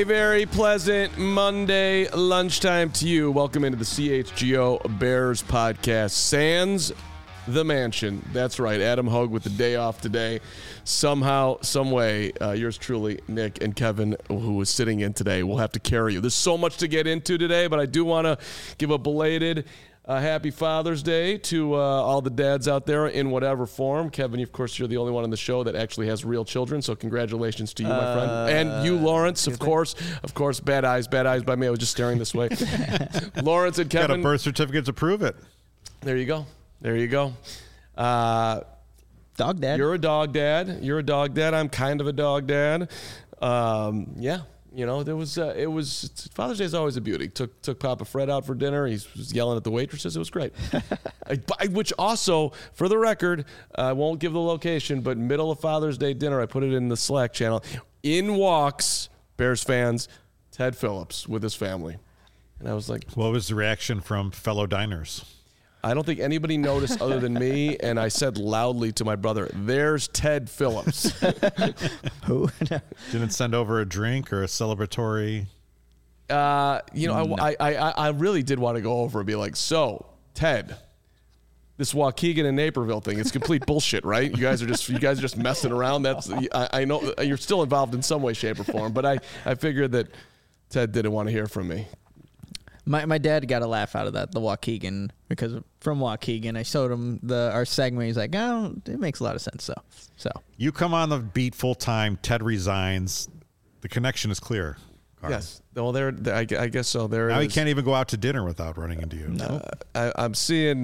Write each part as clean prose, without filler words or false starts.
A very pleasant Monday lunchtime to you. Welcome into the CHGO Bears podcast. Sans the mansion. That's right. Adam Hogue with the day off today. Somehow, some way, yours truly, Nick and Kevin, who is sitting in today, will have to carry you. There's so much to get into today, but I do want to give a belated happy Father's Day to all the dads out there in whatever form. Kevin, of course, you're the only one on the show that actually has real children, so congratulations to you, my friend. And you, Lawrence, of course. Of course, bad eyes by me. I was just staring this way. Lawrence and Kevin. Got a birth certificate to prove it. There you go. Dog dad. You're a dog dad. I'm kind of a dog dad. Yeah. You know, it was Father's Day is always a beauty. Took Papa Fred out for dinner. He was yelling at the waitresses. It was great. Which also, for the record, I won't give the location, but middle of Father's Day dinner, I put it in the Slack channel. In walks, Bears fans, Ted Phillips with his family. And I was like, what was the reaction from fellow diners? I don't think anybody noticed other than me, and I said loudly to my brother, "There's Ted Phillips." Who? Didn't send over a drink or a celebratory? No. I really did want to go over and be like, "So, Ted, this Waukegan and Naperville thing, it's complete bullshit, right? You guys are just messing around. I know you're still involved in some way, shape, or form, but I figured that Ted didn't want to hear from me." My dad got a laugh out of that, the Waukegan, because from Waukegan, I showed him our segment. He's like, "Oh, it makes a lot of sense." So You come on the beat full time. Ted resigns. The connection is clear. Carl. Yes. Well, I guess so. Now he can't even go out to dinner without running into you. no. I'm seeing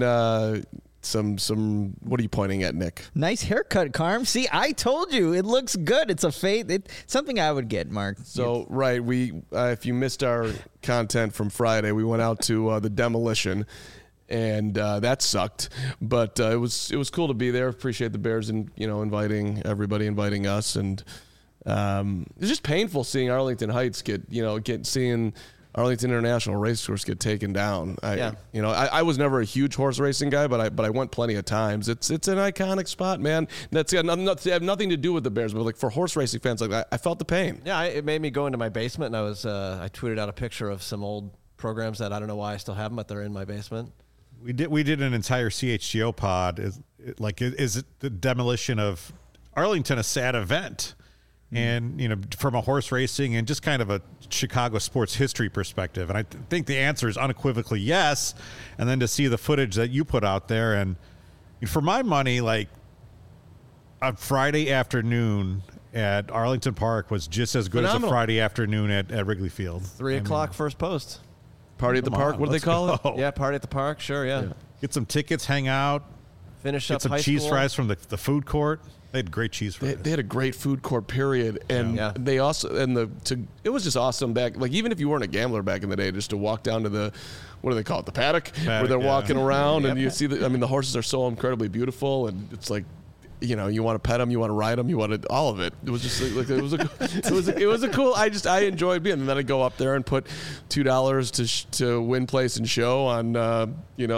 some. What are you pointing at, Nick? Nice haircut, Carm. See, I told you it looks good. It's a fade. It's something I would get, Mark. So right, we if you missed our content from Friday, we went out to the Demolition, and that sucked. But it was cool to be there. Appreciate the Bears and inviting us, and it's just painful seeing Arlington Heights seeing Arlington International Racecourse get taken down. I was never a huge horse racing guy, but I went plenty of times. It's an iconic spot, man. That's got nothing to do with the Bears, but like for horse racing fans, like I felt the pain. Yeah, it made me go into my basement, and I tweeted out a picture of some old programs that I don't know why I still have them, but they're in my basement. We did an entire CHGO pod. Is it the demolition of Arlington a sad event? And, from a horse racing and just kind of a Chicago sports history perspective. And I think the answer is unequivocally yes. And then to see the footage that you put out there. And for my money, like a Friday afternoon at Arlington Park was just as good as a Friday afternoon at Wrigley Field. 3 o'clock first post. Party at the park, what do they call it? Yeah, party at the park, sure, yeah. Get some tickets, hang out. Finish Get up some high cheese school. fries from the food court. They had great cheese fries. They had a great food court, period, and they also it was just awesome back. Like even if you weren't a gambler back in the day, just to walk down to the what do they call it, the paddock where they're walking around and you see the horses are so incredibly beautiful, and it's like. You want to pet them, you want to ride them, you want to all of it. It was just like it was a cool. I enjoyed being, and then I go up there and put $2 to win, place, and show on the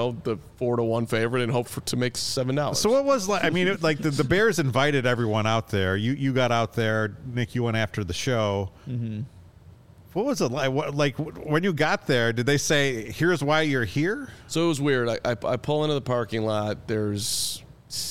4-1 favorite and hope to make $7. So what was like? I mean, the Bears invited everyone out there. You got out there, Nick. You went after the show. Mm-hmm. What was it like? When you got there, did they say, "Here's why you're here"? So it was weird. I pull into the parking lot. There's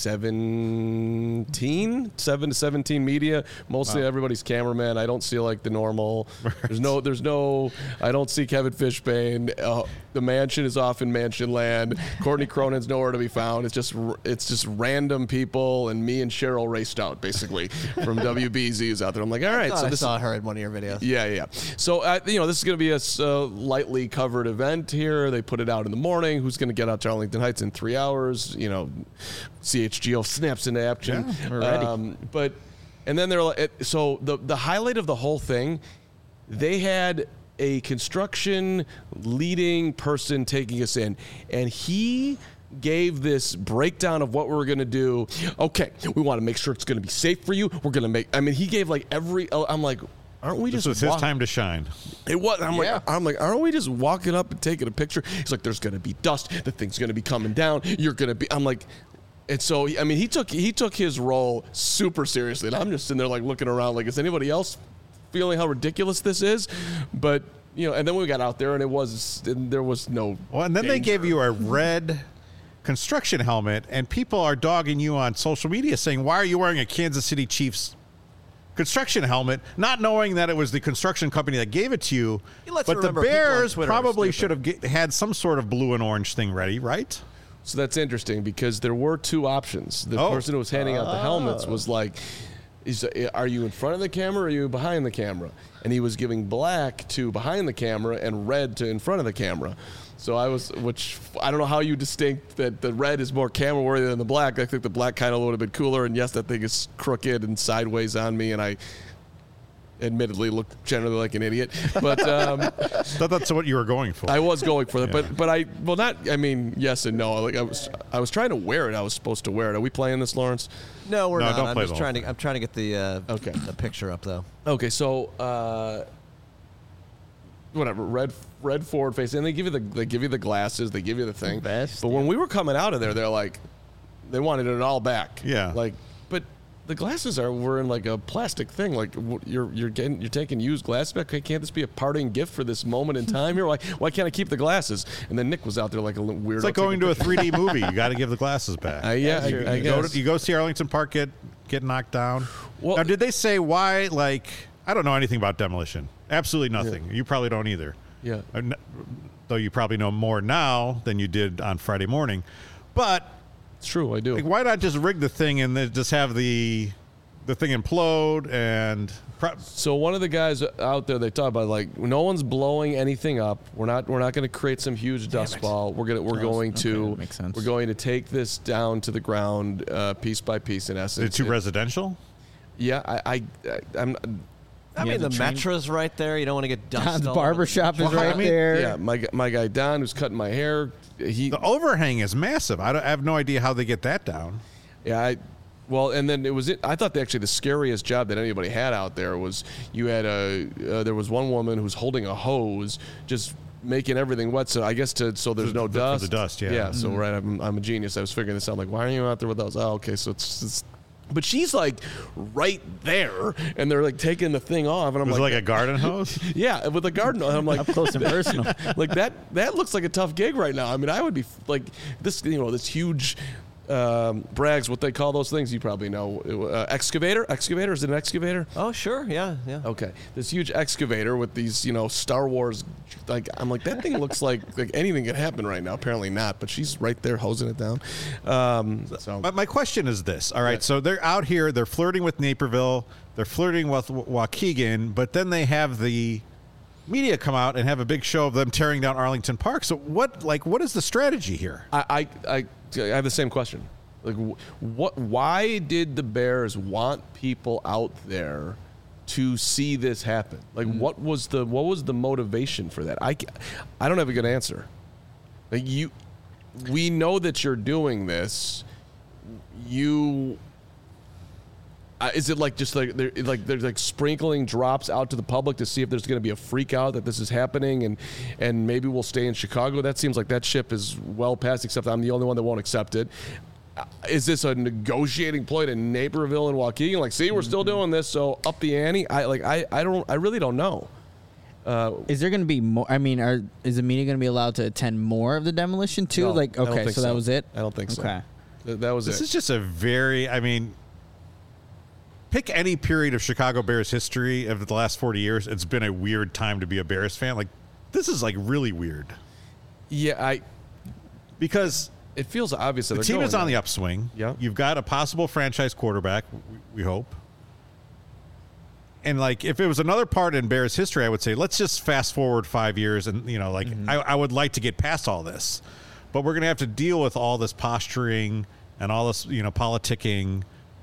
7 to 17 media, mostly everybody's cameraman. I don't see like the normal. There's no. I don't see Kevin Fishbane. The mansion is off in mansion land. Courtney Cronin's nowhere to be found. It's just random people, and me and Cheryl raced out basically from WBZ is out there. I'm like, all right. I saw her in one of your videos. Yeah. So this is going to be a lightly covered event here. They put it out in the morning. Who's going to get out to Arlington Heights in 3 hours? CHGO snaps into action. Yeah, we're ready. And then they're like, so the highlight of the whole thing, they had a construction leading person taking us in, and he gave this breakdown of what we were going to do. Okay, we want to make sure it's going to be safe for you. We're going to he gave like I'm like, aren't we this just was his time to shine? It was. I'm like, aren't we just walking up and taking a picture? He's like, there's going to be dust. The thing's going to be coming down. You're going to be. I'm like, and so he took his role super seriously, and I'm just sitting there like looking around, like, is anybody else feeling how ridiculous this is, but and then we got out there and there was no. Well, and then they gave you a red construction helmet, and people are dogging you on social media saying, "Why are you wearing a Kansas City Chiefs construction helmet?" Not knowing that it was the construction company that gave it to you. But the Bears probably should have had some sort of blue and orange thing ready, right? So that's interesting because there were two options. The person who was handing out the helmets was like, are you in front of the camera or are you behind the camera? And he was giving black to behind the camera and red to in front of the camera. So which I don't know how you distinct that the red is more camera worthy than the black. I think the black kind of would have been cooler. And yes, that thing is crooked and sideways on me. And I admittedly looked generally like an idiot, but thought that's what you were going for. I was going for it, but yes and no. Like I was trying to wear it. I was supposed to wear it. Are we playing this, Lawrence? No, we're not. Don't play I'm trying to get the picture up though. Okay, so whatever, red forward face, and they give you the glasses, they give you the thing. Best, but when we were coming out of there, they're like, they wanted it all back. Yeah, like, but the glasses were in like a plastic thing. Like you're taking used glasses back. Can't this be a parting gift for this moment in time here? Why can't I keep the glasses? And then Nick was out there like a little weirdo. It's like going to a 3D movie. You got to give the glasses back. I guess. You go see Arlington Park get knocked down. Well, now, did they say why? Like, I don't know anything about demolition. Absolutely nothing. Yeah. You probably don't either. Yeah. Though you probably know more now than you did on Friday morning. But it's true, I do. Like, why not just rig the thing and then just have the thing implode and? So one of the guys out there, they talk about like no one's blowing anything up. We're not going to create some huge dust ball. We're going to take this down to the ground piece by piece. In essence, is it too residential? Yeah, I'm. I mean, the Metra's right there. You don't want to get dust. Don's barbershop is right there. Yeah, my guy Don, who's cutting my hair. The overhang is massive. I have no idea how they get that down. Yeah, and then I thought actually the scariest job that anybody had out there was you had there was one woman who's holding a hose, just making everything wet. So I guess so there's no dust. For the dust, yeah. Yeah. So right, I'm a genius. I was figuring this out. Like, why are you out there with those? Oh, okay. So it's but she's like right there, and they're like taking the thing off, and I'm like a garden hose. Yeah, with a garden hose. I'm like up close and personal. Like that looks like a tough gig right now. I mean, I would be like this, this huge Brags, what they call those things, you probably know. Excavator? Is it an excavator? Oh, sure. Yeah. Okay. This huge excavator with these, Star Wars, I'm like, that thing looks like anything could happen right now. Apparently not, but she's right there hosing it down. But my question is this. All right, so they're out here, they're flirting with Naperville, they're flirting with Waukegan, but then they have the media come out and have a big show of them tearing down Arlington Park. So what is the strategy here? I have the same question. Like, why did the Bears want people out there to see this happen? Like, what was the motivation for that? I don't have a good answer. Like, we know that you're doing this. Is it like just like they're like sprinkling drops out to the public to see if there's going to be a freak out that this is happening and maybe we'll stay in Chicago? That seems like that ship is well past, except I'm the only one that won't accept it. Is this a negotiating ploy to Naperville and Waukegan? Like, see, we're still doing this, so up the ante. I really don't know. Is there going to be more? I mean, is the media going to be allowed to attend more of the demolition too? No, like, okay, so that was it. I don't think so. Okay, that was it. This is just a very, pick any period of Chicago Bears history of the last 40 years. It's been a weird time to be a Bears fan. Like, this is like really weird. Yeah, because it feels obvious that the team is on the upswing. Yeah, you've got a possible franchise quarterback. We hope. And like, if it was another part in Bears history, I would say let's just fast forward 5 years, and I would like to get past all this, but we're going to have to deal with all this posturing and all this politicking.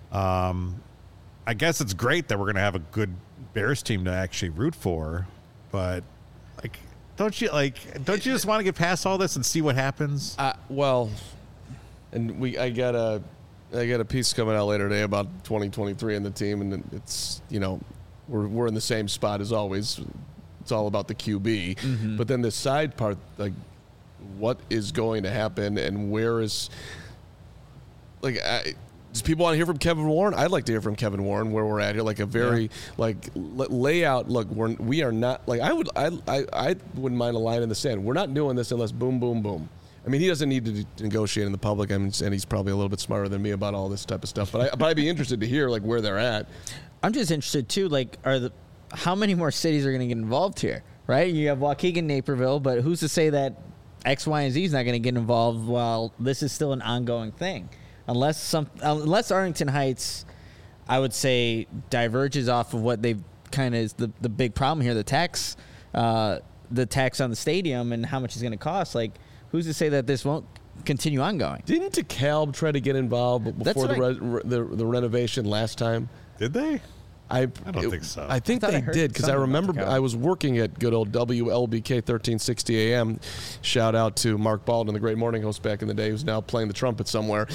I guess it's great that we're going to have a good Bears team to actually root for, but don't you just want to get past all this and see what happens? Well, and I got a piece coming out later today about 2023 and the team, and it's we're in the same spot as always. It's all about the QB, but then the side part, like what is going to happen and where is Does people want to hear from Kevin Warren? I'd like to hear from Kevin Warren where we're at here, like a very layout. Look, we are not like I wouldn't mind a line in the sand. We're not doing this unless boom, boom, boom. I mean, he doesn't need to negotiate in the public. I mean, and he's probably a little bit smarter than me about all this type of stuff. But I'd be interested to hear like where they're at. I'm just interested too. Like, how many more cities are going to get involved here? Right? You have Waukegan, Naperville, but who's to say that X, Y, and Z is not going to get involved while this is still an ongoing thing? Unless Arlington Heights, I would say, diverges off of what they've kind of is the big problem here, the tax on the stadium and how much it's going to cost. Like, who's to say that this won't continue ongoing? Didn't DeKalb try to get involved before the renovation last time? Did they? I don't think so. I think they did because I remember I was working at good old WLBK 1360 AM. Shout out to Mark Baldwin, the great morning host back in the day, who's now playing the trumpet somewhere.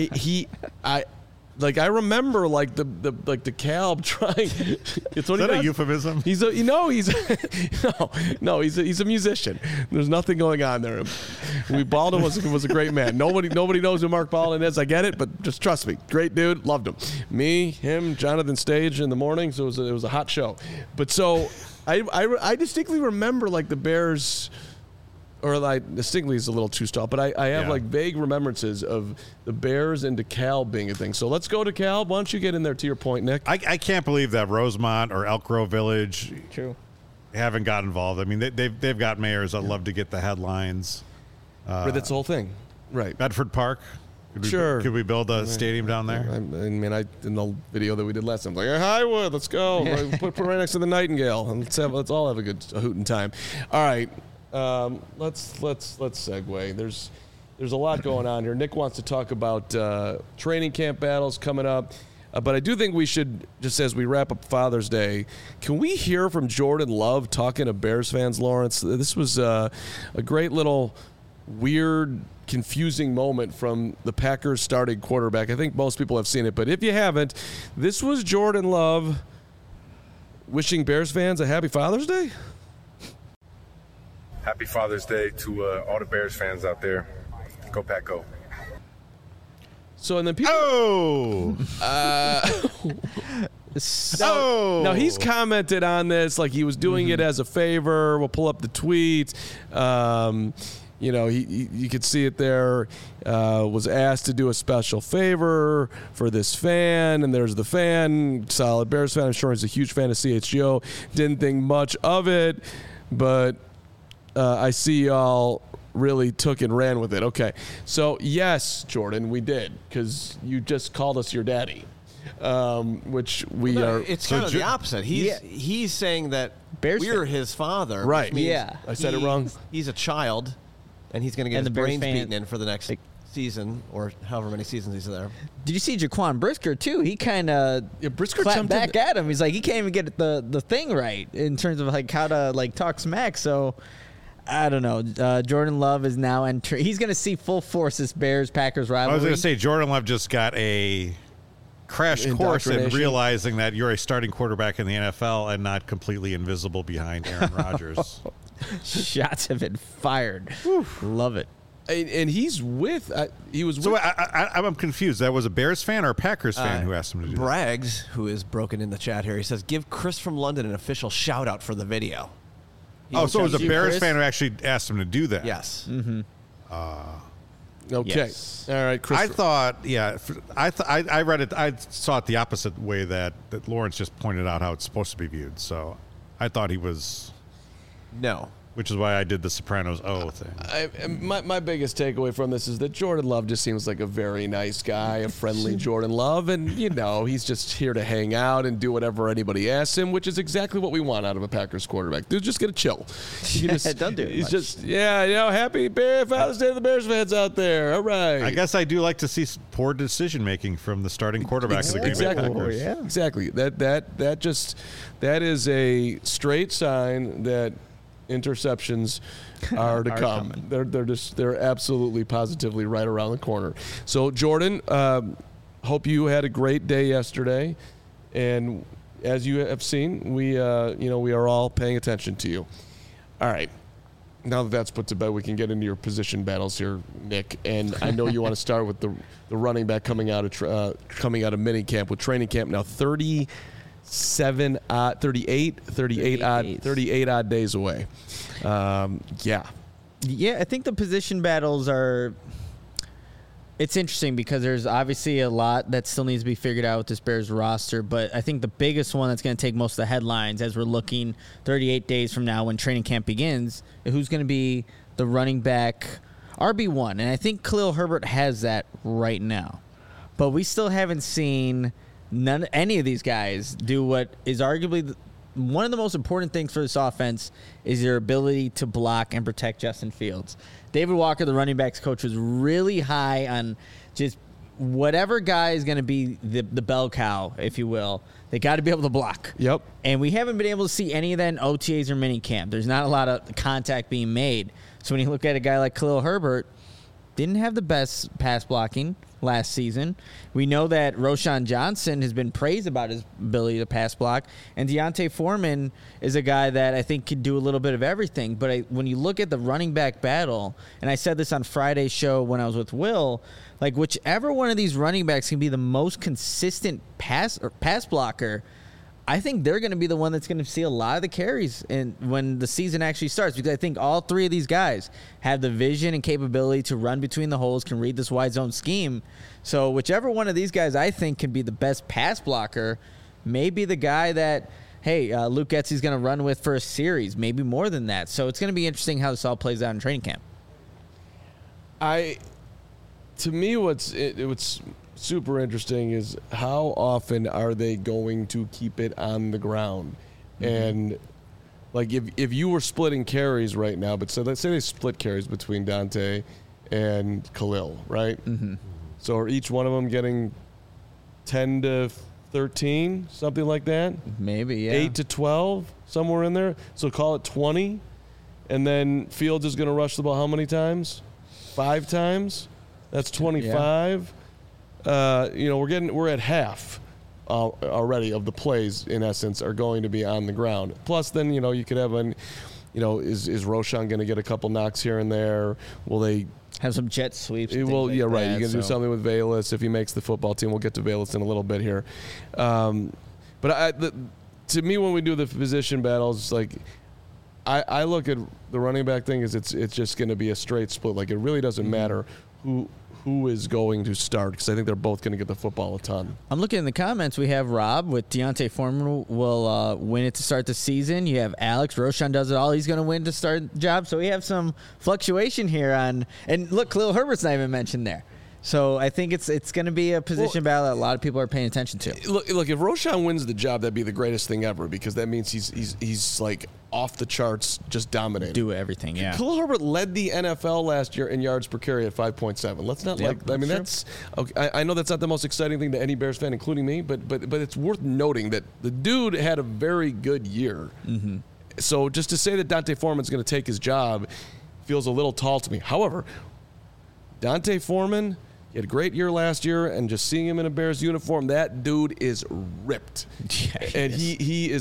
I remember like the DeKalb trying. It's what Is that a euphemism? He's a musician. There's nothing going on there. Baldwin was a great man. Nobody knows who Mark Baldwin is. I get it, but just trust me, great dude, loved him. Me, him, Jonathan Stage in the morning. So it was a hot show. But so I distinctly remember like the Bears. Or like distinctly is a little too tall, but I have like vague remembrances of the Bears and DeKalb being a thing. So let's go to DeKalb. Why don't you get in there to your point, Nick? I can't believe that Rosemont or Elk Grove Village haven't got involved. I mean, they've got mayors that love to get the headlines. But that's the whole thing, right? Bedford Park. Could we build a stadium down there? I mean, in the video that we did last time, I was like, Highwood, let's go. put right next to the Nightingale, and let's all have a hootin' time. All right. Let's segue. There's a lot going on here. Nick wants to talk about training camp battles coming up, but I do think we should, just as we wrap up Father's Day, can we hear from Jordan Love talking to Bears fans, Lawrence? This was a great little weird, confusing moment from the Packers starting quarterback. I think most people have seen it, but if you haven't, this was Jordan Love wishing Bears fans a happy Father's Day. Happy Father's Day to all the Bears fans out there. Go Pack Go. So, and then people... Now, he's commented on this like he was doing it as a favor. We'll pull up the tweet. You could see it there. Was asked to do a special favor for this fan, and there's the fan, solid Bears fan. I'm sure he's a huge fan of CHGO. Didn't think much of it, but... I see y'all really took and ran with it. Okay. So, yes, Jordan, we did, because you just called us your daddy, which we are. It's kind of the opposite. He's saying that we're his father. Right. Yeah. I said it wrong. He's a child, and he's going to get his brains beaten in for the next season or however many seasons he's there. Did you see Jaquan Brisker, too? He kind of clapped back at him. He's like, he can't even get the thing right in terms of like how to like talk smack. So... I don't know. Jordan Love is now entering. He's going to see full force this Bears-Packers rivalry. I was going to say, Jordan Love just got a crash course in realizing that you're a starting quarterback in the NFL and not completely invisible behind Aaron Rodgers. Shots have been fired. Love it. And he's with. He was. So I'm confused. That was a Bears fan or a Packers fan who asked him to do that? Braggs, who is broken in the chat here, he says, give Chris from London an official shout-out for the video. So it was a Bears fan who actually asked him to do that. Yes. Mm-hmm. Okay. Yes. All right, Chris. I thought, I read it. I saw it the opposite way that Lawrence just pointed out how it's supposed to be viewed. So I thought he was. No. Which is why I did the Sopranos thing. My biggest takeaway from this is that Jordan Love just seems like a very nice guy, a friendly Jordan Love. And, he's just here to hang out and do whatever anybody asks him, which is exactly what we want out of a Packers quarterback. Dude, just get a chill. Don't do it. He's just, happy Father's Day to the Bears fans out there. All right. I guess I do like to see poor decision-making from the starting quarterback of the Green Bay Packers. Yeah. Exactly. That is a straight sign that interceptions are to come. They're absolutely positively right around the corner. So Jordan, hope you had a great day yesterday, and as you have seen, we are all paying attention to you. All right, now that that's put to bed, we can get into your position battles here, Nick. And I know you want to start with the running back coming out of minicamp with training camp now 38 odd days away. Yeah, I think the position battles are. It's interesting because there's obviously a lot that still needs to be figured out with this Bears roster, but I think the biggest one that's going to take most of the headlines as we're looking 38 days from now when training camp begins, who's going to be the running back RB1. And I think Khalil Herbert has that right now. But we still haven't seen any of these guys do what is arguably one of the most important things for this offense is their ability to block and protect Justin Fields. David Walker, the running backs coach, was really high on just whatever guy is going to be the bell cow, if you will. They got to be able to block. Yep. And we haven't been able to see any of that in OTAs or minicamp. There's not a lot of contact being made. So when you look at a guy like Khalil Herbert, didn't have the best pass blocking last season. We know that Roschon Johnson has been praised about his ability to pass block, and Deontay Foreman is a guy that I think can do a little bit of everything. But when you look at the running back battle, and I said this on Friday's show when I was with Will, like whichever one of these running backs can be the most consistent pass blocker, I think they're going to be the one that's going to see a lot of the carries when the season actually starts, because I think all three of these guys have the vision and capability to run between the holes, can read this wide zone scheme. So whichever one of these guys I think can be the best pass blocker may be the guy that, Luke Getsy's going to run with for a series, maybe more than that. So it's going to be interesting how this all plays out in training camp. To me, what's super interesting is how often are they going to keep it on the ground. And like if you were splitting carries right now, but so let's say they split carries between Dante and Khalil, right? So are each one of them getting 10 to 13, something like that? Maybe, yeah. 8 to 12, somewhere in there. So call it 20. And then Fields is going to rush the ball how many times? 5 times? That's 25. Yeah. We're at half already of the plays, in essence, are going to be on the ground. Plus, then, you could have is Roschon going to get a couple knocks here and there? Will they have some jet sweeps? Well, yeah, right. You can do something with Velus if he makes the football team. We'll get to Velus in a little bit here. But to me, when we do the position battles, like I look at the running back thing as it's just going to be a straight split. Like it really doesn't matter who is going to start, because I think they're both going to get the football a ton. I'm looking in the comments. We have Rob with Deontay Foreman will win it to start the season. You have Alex. Roschon does it all. He's going to win to start the job. So we have some fluctuation here and look, Khalil Herbert's not even mentioned there. So I think it's going to be a position battle that a lot of people are paying attention to. Look, if Roschon wins the job, that'd be the greatest thing ever, because that means he's like off the charts, just dominating. Do everything, yeah. Khalil Herbert led the NFL last year in yards per carry at 5.7. Let's not that's okay. I know that's not the most exciting thing to any Bears fan, including me, but it's worth noting that the dude had a very good year. So just to say that Dante Foreman's going to take his job feels a little tall to me. However, Dante Foreman, he had a great year last year, and just seeing him in a Bears uniform, that dude is ripped. Yeah, he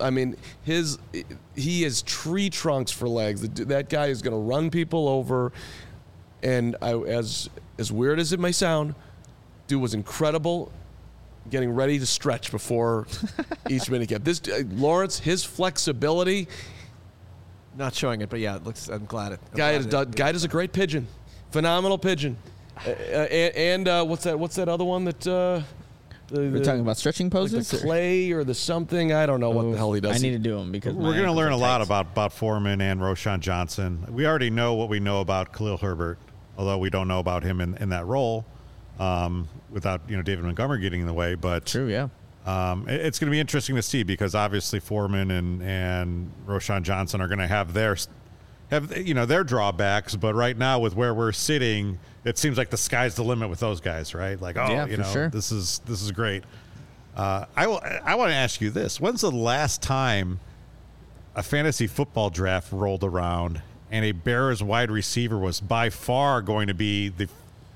is tree trunks for legs. That guy is going to run people over. And as weird as it may sound, dude was incredible getting ready to stretch before each minicamp. This Lawrence, his flexibility. Not showing it, but yeah, it looks. I'm glad it. Guy does a great pigeon, phenomenal pigeon. And what's that other one that we're talking about stretching poses, like the clay or the something? I don't know what the hell he does. I need to do them because we're going to learn a lot about Foreman and Roschon Johnson. We already know what we know about Khalil Herbert, although we don't know about him in that role without David Montgomery getting in the way. But true, yeah. It's going to be interesting to see, because obviously Foreman and Roschon Johnson are going to have their drawbacks, but right now with where we're sitting, it seems like the sky's the limit with those guys, right? Like, sure. This is great. I want to ask you this: when's the last time a fantasy football draft rolled around and a Bears wide receiver was by far going to be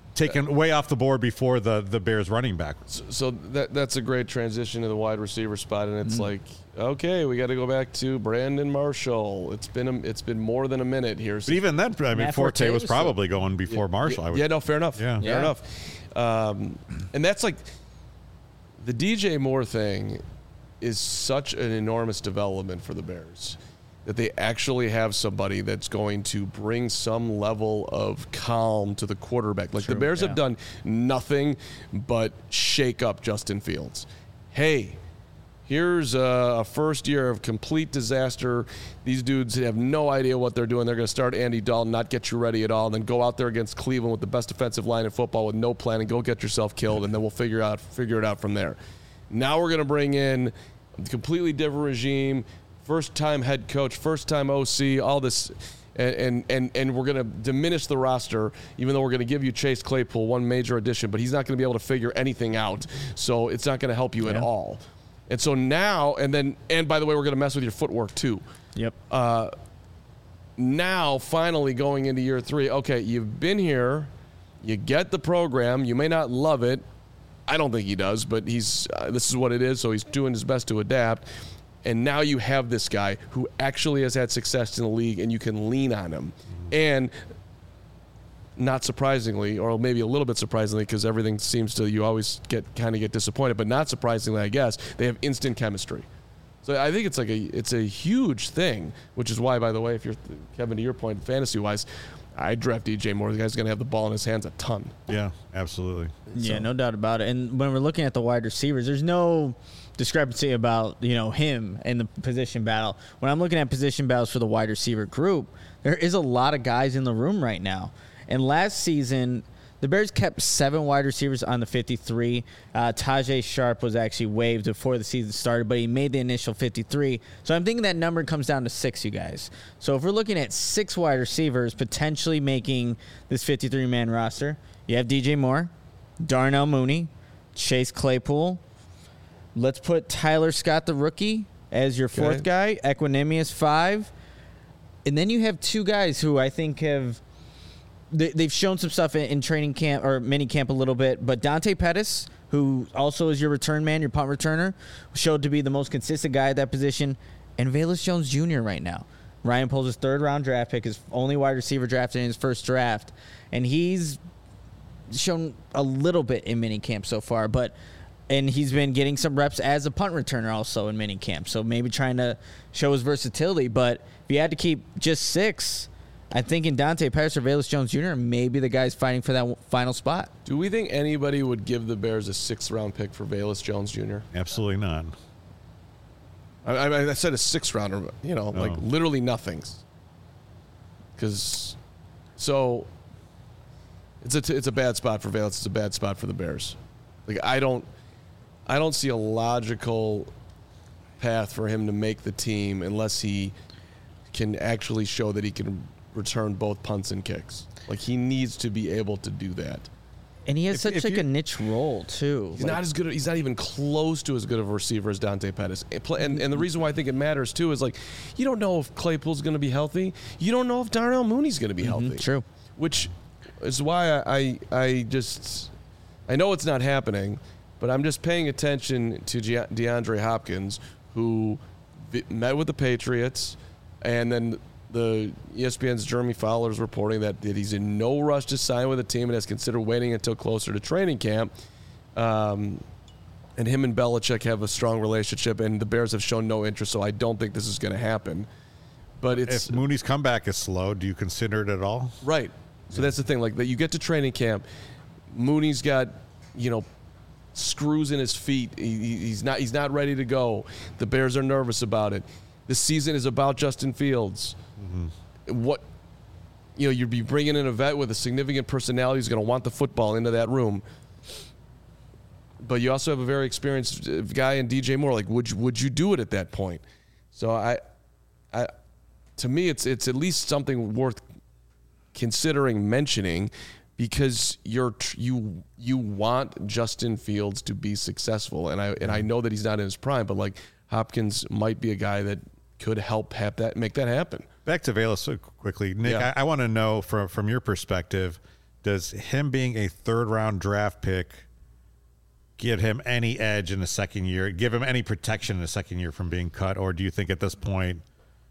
taken way off the board before the Bears running back. So that's a great transition to the wide receiver spot, and it's like, okay, we got to go back to Brandon Marshall. It's been more than a minute here. But even then, I mean, Matt Forte was Forte probably going before Marshall. Yeah, no, fair enough. Yeah. Fair enough. And that's like the DJ Moore thing is such an enormous development for the Bears that they actually have somebody that's going to bring some level of calm to the quarterback. Like the Bears have done nothing but shake up Justin Fields. Hey, here's a first year of complete disaster. These dudes have no idea what they're doing. They're going to start Andy Dalton, not get you ready at all, and then go out there against Cleveland with the best defensive line in football with no plan and go get yourself killed, and then we'll figure it out from there. Now we're going to bring in a completely different regime, first-time head coach, first-time OC, all this, and we're going to diminish the roster, even though we're going to give you Chase Claypool, one major addition, but he's not going to be able to figure anything out, so it's not going to help you at all. And so now, and by the way, we're going to mess with your footwork too. Yep. Now, finally going into year 3, okay, you've been here, you get the program, you may not love it. I don't think he does, but this is what it is, so he's doing his best to adapt. And now you have this guy who actually has had success in the league, and you can lean on him. And not surprisingly, or maybe a little bit surprisingly, because everything seems to, you always get disappointed, but not surprisingly, I guess, they have instant chemistry. So I think it's a huge thing, which is why, by the way, if you're, Kevin, to your point, fantasy-wise, I draft DJ Moore. The guy's going to have the ball in his hands a ton. Yeah, absolutely. Yeah, no doubt about it. And when we're looking at the wide receivers, there's no discrepancy about, him and the position battle. When I'm looking at position battles for the wide receiver group, there is a lot of guys in the room right now. And last season, the Bears kept 7 wide receivers on the 53. Tajay Sharp was actually waived before the season started, but he made the initial 53. So I'm thinking that number comes down to 6, you guys. So if we're looking at 6 wide receivers potentially making this 53-man roster, you have DJ Moore, Darnell Mooney, Chase Claypool. Let's put Tyler Scott, the rookie, as your 4th guy. Equanimous 5. And then you have 2 guys who I think they've shown some stuff in training camp or mini camp a little bit, but Dante Pettis, who also is your return man, your punt returner, showed to be the most consistent guy at that position, and Velus Jones Jr. right now. Ryan Poles' 3rd-round draft pick, his only wide receiver drafted in his first draft, and he's shown a little bit in mini camp so far, and he's been getting some reps as a punt returner also in mini camp, so maybe trying to show his versatility. But if you had to keep just 6, I think in Dante Pettis or Velus Jones Jr., maybe the guy's fighting for that final spot. Do we think anybody would give the Bears a 6th-round pick for Velus Jones Jr.? Absolutely not. I said a 6th-rounder, like literally nothings. Because, so, it's a bad spot for Velus. It's a bad spot for the Bears. Like I don't see a logical path for him to make the team unless he can actually show that he can return both punts and kicks. Like he needs to be able to do that. And he has such a niche role too. He's not as good. He's not even close to as good of a receiver as Dante Pettis. And the reason why I think it matters too is like you don't know if Claypool's going to be healthy. You don't know if Darnell Mooney's going to be healthy. True. Which is why I know it's not happening, but I'm just paying attention to DeAndre Hopkins, who met with the Patriots, and then the ESPN's Jeremy Fowler is reporting that he's in no rush to sign with a team and has considered waiting until closer to training camp. And him and Belichick have a strong relationship, and the Bears have shown no interest, so I don't think this is going to happen. But if Mooney's comeback is slow, do you consider it at all? Right. So that's the thing. Like that, you get to training camp, Mooney's got, screws in his feet. He's not ready to go. The Bears are nervous about it. The season is about Justin Fields. Mm-hmm. You'd be bringing in a vet with a significant personality who's going to want the football into that room. But you also have a very experienced guy in DJ Moore. Like, would you do it at that point? So to me, it's at least something worth considering mentioning, because you want Justin Fields to be successful, and I know that he's not in his prime, but like Hopkins might be a guy that could help make that happen. Back to Velus quickly, Nick. Yeah. I want to know from your perspective, does him being a third-round draft pick give him any edge in the second year, give him any protection in the second year from being cut, or do you think at this point?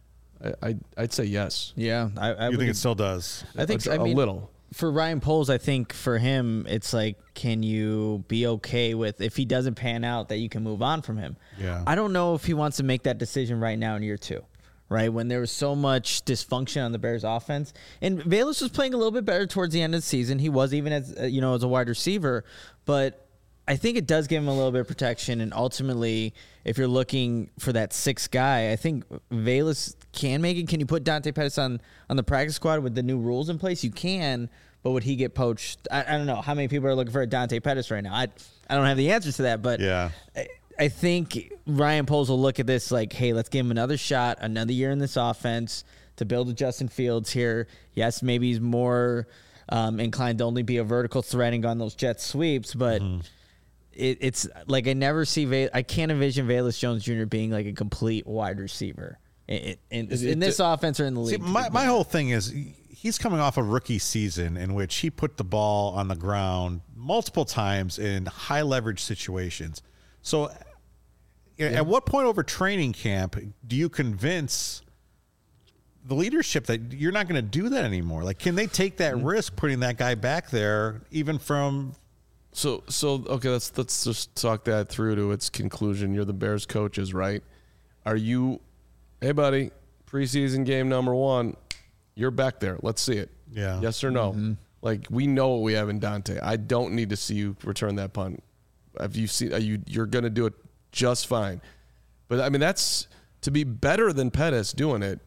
I'd say yes. Yeah, I You think it still does? I think A little. For Ryan Poles, I think for him, it's like, can you be okay with if he doesn't pan out that you can move on from him? Yeah. I don't know if he wants to make that decision right now in year 2, right? When there was so much dysfunction on the Bears offense, and Velus was playing a little bit better towards the end of the season. He was even as as a wide receiver, but I think it does give him a little bit of protection. And ultimately, if you're looking for that 6th guy, I think Velus can make it. Can you put Dante Pettis on the practice squad with the new rules in place? You can, but would he get poached? I don't know how many people are looking for a Dante Pettis right now. I don't have the answer to that, but Yeah. I think Ryan Poles will look at this like, hey, let's give him another shot, another year in this offense to build with Justin Fields here. Yes, maybe he's more inclined to only be a vertical threat and go on those jet sweeps, but it's like I can't envision Velus Jones Jr. being like a complete wide receiver in this offense or in the league. See, my whole thing is he's coming off a rookie season in which he put the ball on the ground multiple times in high leverage situations. So at what point over training camp do you convince the leadership that you're not going to do that anymore? Like, can they take that risk putting that guy back there even from... So okay, let's just talk that through to its conclusion. You're the Bears coaches, right? Are you, hey buddy, preseason game number 1, you're back there. Let's see it. Yeah. Yes or no? Like, we know what we have in Dante. I don't need to see you return that punt. Have you seen? You're going to do it just fine. But I mean, that's to be better than Pettis doing it.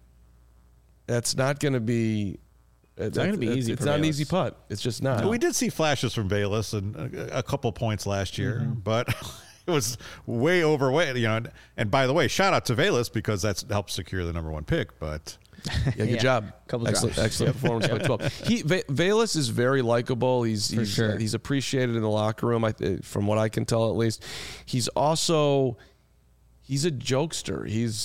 That's not going to be. It's not going to be easy. It's not an easy putt. It's just not. We did see flashes from Velus and a couple points last year, but it was way overweight. And by the way, shout out to Velus because that's helped secure the number 1 pick. But yeah, good job. Excellent performance by 12. Velus is very likable. He's appreciated in the locker room. From what I can tell, at least, he's also. He's a jokester.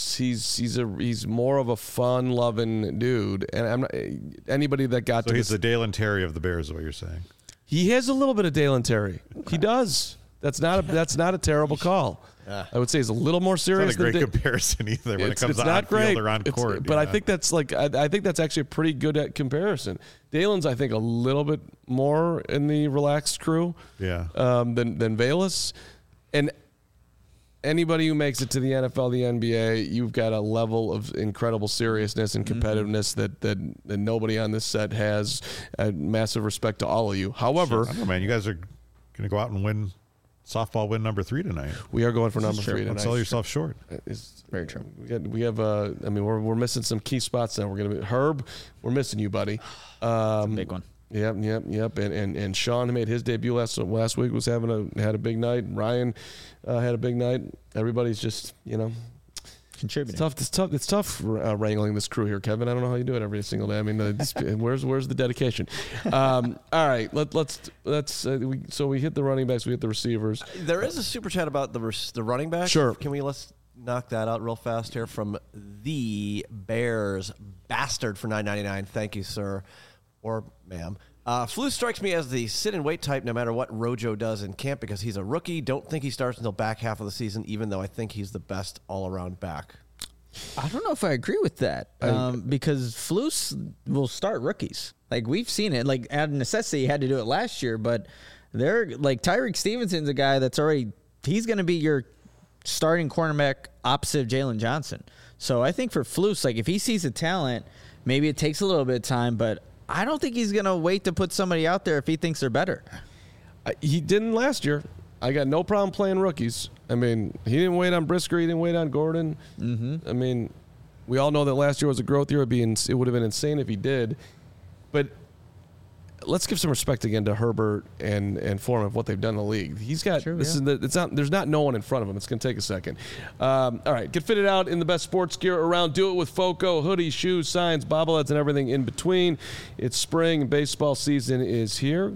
He's more of a fun-loving dude, and I'm not, anybody that got so to he's the Dalen Terry of the Bears, is what you're saying. He has a little bit of Dalen Terry. He does. That's not a terrible call. I would say he's a little more serious. It's not a great comparison either when it comes to on field or on court. But I think that's I think that's actually a pretty good comparison. Dalen's I think a little bit more in the relaxed crew. Yeah. Than Velus, and anybody who makes it to the NFL, the NBA, you've got a level of incredible seriousness and competitiveness that nobody on this set has. Massive respect to all of you. However, I don't know, man, you guys are going to go out and win softball win number 3 tonight. We are going for number 3 tonight. Don't sell yourself short. It's very true. We have we're missing some key spots now. We're going to be Herb. We're missing you, buddy. It's a big one. Yep. And Sean made his debut last week. Had a big night. Ryan had a big night. Everybody's just contributing. It's tough wrangling this crew here, Kevin. I don't know how you do it every single day. I mean, where's the dedication? All right, so we hit the running backs, we hit the receivers. There is a super chat about the running back. Sure. Let's knock that out real fast here from the Bears Bastard for $9.99. Thank you, sir. Or ma'am. Flus strikes me as the sit-and-wait type no matter what Rojo does in camp because he's a rookie. Don't think he starts until back half of the season, even though I think he's the best all-around back. I don't know if I agree with that because Flus will start rookies. Like, we've seen it. Like, out of necessity, he had to do it last year, but they're like Tyreek Stevenson's a guy that's he's going to be your starting cornerback opposite of Jalen Johnson. So I think for Flus, like, if he sees the talent, maybe it takes a little bit of time, but I don't think he's going to wait to put somebody out there if he thinks they're better. He didn't last year. I got no problem playing rookies. I mean, he didn't wait on Brisker. He didn't wait on Gordon. I mean, we all know that last year was a growth year. It would have been insane if he did. But let's give some respect again to Herbert and Foreman of what they've done in the league. He's got there's not no one in front of him. It's going to take a second. All right, get fitted out in the best sports gear around. Do it with Foco, hoodies, shoes, signs, bobbleheads, and everything in between. It's spring. Baseball season is here.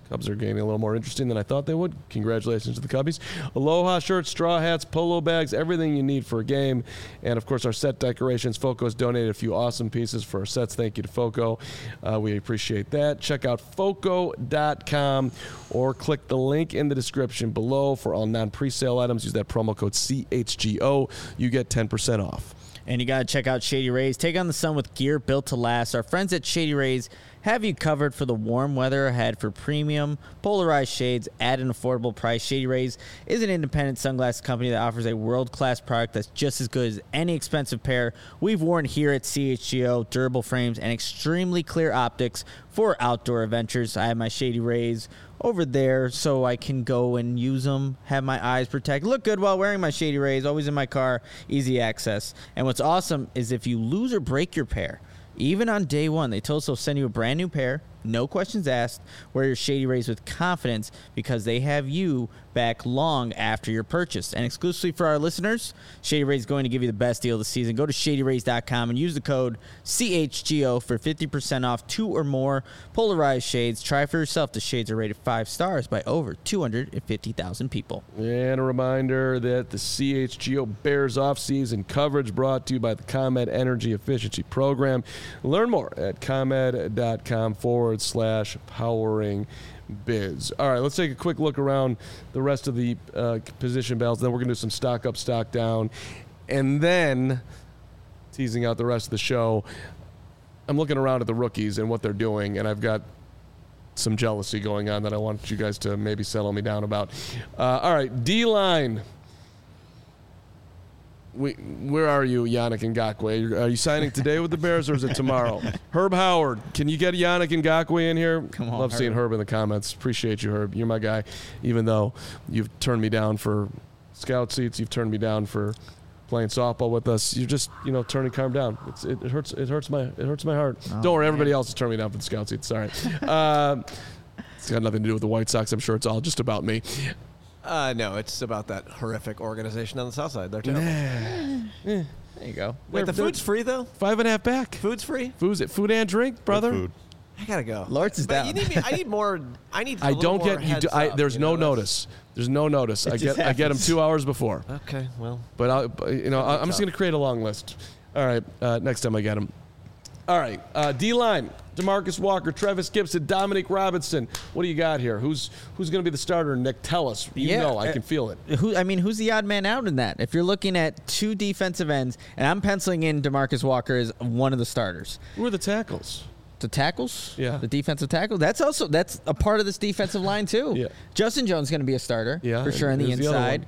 Cubs are getting a little more interesting than I thought they would. Congratulations to the Cubbies. Aloha shirts, straw hats, polo bags, everything you need for a game. And, of course, our set decorations. Foco's donated a few awesome pieces for our sets. Thank you to Foco. We appreciate that. Check out Foco.com or click the link in the description below for all non-presale items. Use that promo code CHGO. You get 10% off. And you got to check out Shady Rays. Take on the sun with gear built to last. Our friends at Shady Rays have you covered for the warm weather ahead. For premium, polarized shades at an affordable price. Shady Rays is an independent sunglasses company that offers a world-class product that's just as good as any expensive pair we've worn here at CHGO. Durable frames and extremely clear optics for outdoor adventures. I have my Shady Rays over there so I can go and use them, have my eyes protected, look good while wearing my Shady Rays, always in my car, easy access. And what's awesome is if you lose or break your pair, even on day one, they told us they'll send you a brand new pair, no questions asked. Wear your Shady Rays with confidence because they have you back long after your purchase. And exclusively for our listeners, Shady Rays is going to give you the best deal of the season. Go to ShadyRays.com and use the code CHGO for 50% off 2 or more polarized shades. Try for yourself. The shades are rated 5 stars by over 250,000 people. And a reminder that the CHGO Bears off-season coverage brought to you by the ComEd Energy Efficiency Program. Learn more at ComEd.com/powering biz. All right, let's take a quick look around the rest of the position battles. Then we're going to do some stock up, stock down. And then, teasing out the rest of the show, I'm looking around at the rookies and what they're doing, and I've got some jealousy going on that I want you guys to maybe settle me down about. All right, D-line. Where are you, Yannick Ngakoue? Are you signing today with the Bears, or is it tomorrow? Herb Howard, can you get Yannick Ngakoue in here? Come on, Love seeing Herb in the comments. Appreciate you, Herb. You're my guy. Even though you've turned me down for scout seats, you've turned me down for playing softball with us. You're just, turning calm down. It hurts. It hurts my heart. Oh, Don't worry, everybody else has turned me down for the scout seats. Sorry. It's got nothing to do with the White Sox. I'm sure it's all just about me. No, it's about that horrific organization on the south side. They're terrible. There you go. Wait, the food's free, though? 5.5 back. Food's free? Food and drink, brother. Food. I gotta go. Lawrence is But down. you need me. I need more. I need. I don't get you. There's no notice. There's no notice. I get them 2 hours before. Okay, well. But I'm just going to create a long list. All right, next time I get them. All right, D-line, DeMarcus Walker, Travis Gibson, Dominic Robinson. What do you got here? Who's going to be the starter? Nick, tell us. I can feel it. Who's the odd man out in that? If you're looking at 2 defensive ends, and I'm penciling in DeMarcus Walker as one of the starters. Who are the tackles? The tackles? Yeah. The defensive tackle? That's a part of this defensive line, too. Yeah. Justin Jones is going to be a starter, for sure, on the who's the other inside. one?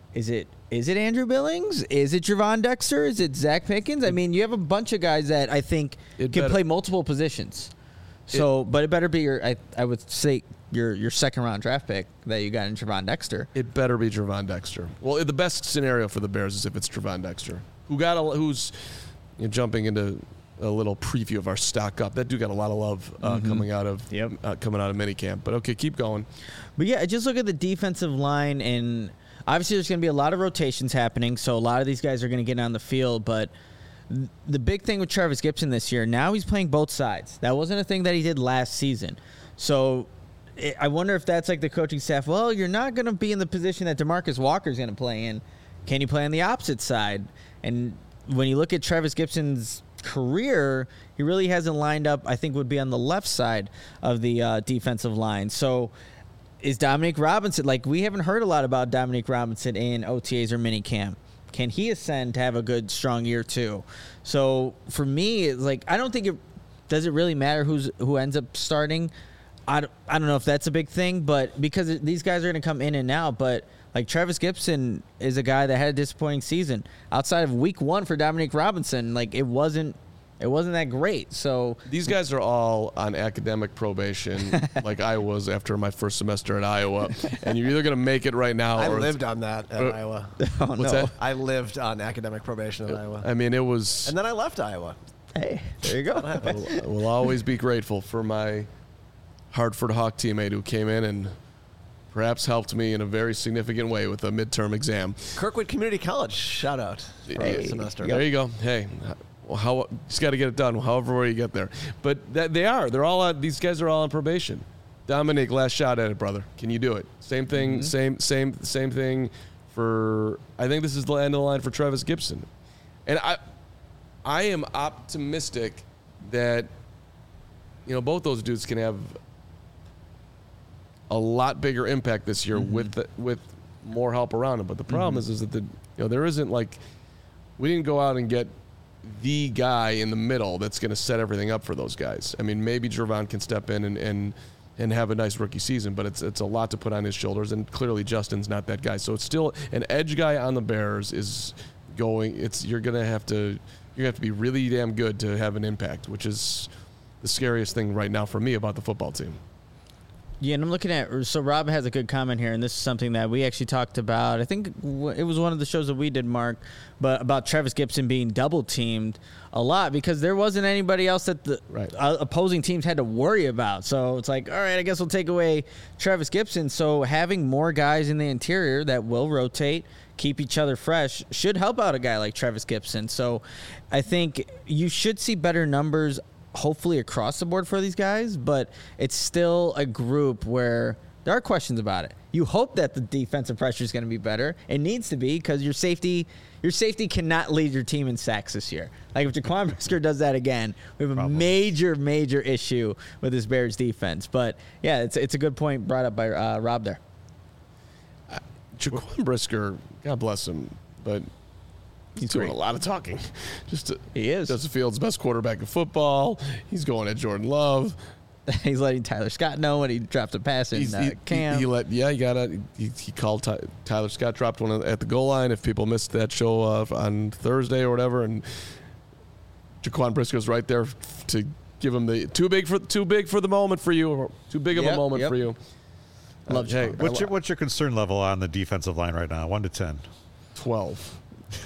Is it Andrew Billings? Is it Javon Dexter? Is it Zach Pickens? I mean, you have a bunch of guys that I think can play multiple positions. So, but it better be I would say your second round draft pick that you got in Javon Dexter. It better be Javon Dexter. Well, the best scenario for the Bears is if it's Javon Dexter, who's jumping into a little preview of our stock up. That dude got a lot of love coming out of minicamp. But okay, keep going. But yeah, just look at the defensive line, and obviously there's going to be a lot of rotations happening, so a lot of these guys are going to get on the field. But the big thing with Travis Gibson this year, now he's playing both sides. That wasn't a thing that he did last season. So I wonder if that's like the coaching staff. Well, you're not going to be in the position that DeMarcus Walker is going to play in. Can you play on the opposite side? And when you look at Travis Gibson's career, he really hasn't lined up, I think would be on the left side of the defensive line. So is Dominic Robinson, we haven't heard a lot about Dominic Robinson in OTAs or minicamp. Can he ascend to have a good, strong year too? So for me, it's I don't think does it really matter who ends up starting. I don't know if that's a big thing, but because these guys are going to come in and out, but Travis Gibson is a guy that had a disappointing season. Outside of week 1 for Dominic Robinson, it wasn't that great. So these guys are all on academic probation, like I was after my first semester at Iowa. And you're either going to make it right now, I or lived on that at Iowa. What's that? I lived on academic probation at Iowa. I mean, it was. And then I left Iowa. hey, there you go. I will always be grateful for my Hartford Hawk teammate who came in and perhaps helped me in a very significant way with a midterm exam. Kirkwood Community College, shout out for the semester. There you go. Hey, just got to get it done, however way you get there. But they're all on, these guys are all on probation. Dominic, last shot at it, brother. Can you do it? Same thing. Same thing for. I think this is the end of the line for Travis Gibson, and I am optimistic that both those dudes can have a lot bigger impact this year with more help around them. But the problem is that there isn't we didn't go out and get the guy in the middle that's going to set everything up for those guys. I mean, maybe Gervon can step in and have a nice rookie season, but it's a lot to put on his shoulders, and clearly Justin's not that guy. So it's still an edge guy on the Bears is going. You're gonna have to be really damn good to have an impact, which is the scariest thing right now for me about the football team. Yeah, and I'm looking at, so Rob has a good comment here, and this is something that we actually talked about. I think it was one of the shows that we did, Mark, but about Travis Gibson being double-teamed a lot because there wasn't anybody else that the opposing teams had to worry about. So it's like, all right, I guess we'll take away Travis Gibson. So having more guys in the interior that will rotate, keep each other fresh, should help out a guy like Travis Gibson. So I think you should see better numbers hopefully across the board for these guys, but it's still a group where there are questions about it. You hope that the defensive pressure is going to be better. It needs to be because your safety cannot lead your team in sacks this year. Like if Jaquan Brisker does that again, we have a major issue with this Bears defense. But yeah, it's a good point brought up by Rob there. Jaquan Brisker, God bless him, but he's doing a lot of talking. He is. Justin Fields' best quarterback in football. He's going at Jordan Love. He's letting Tyler Scott know when he dropped a pass in camp. He called Tyler Scott, dropped one at the goal line. If people missed that show on Thursday or whatever, and Jaquan Briscoe's right there to give him the too big for the moment for you, or too big of a moment for you. Love Jaquan. What's your concern level on the defensive line right now? 1 to 10. 12.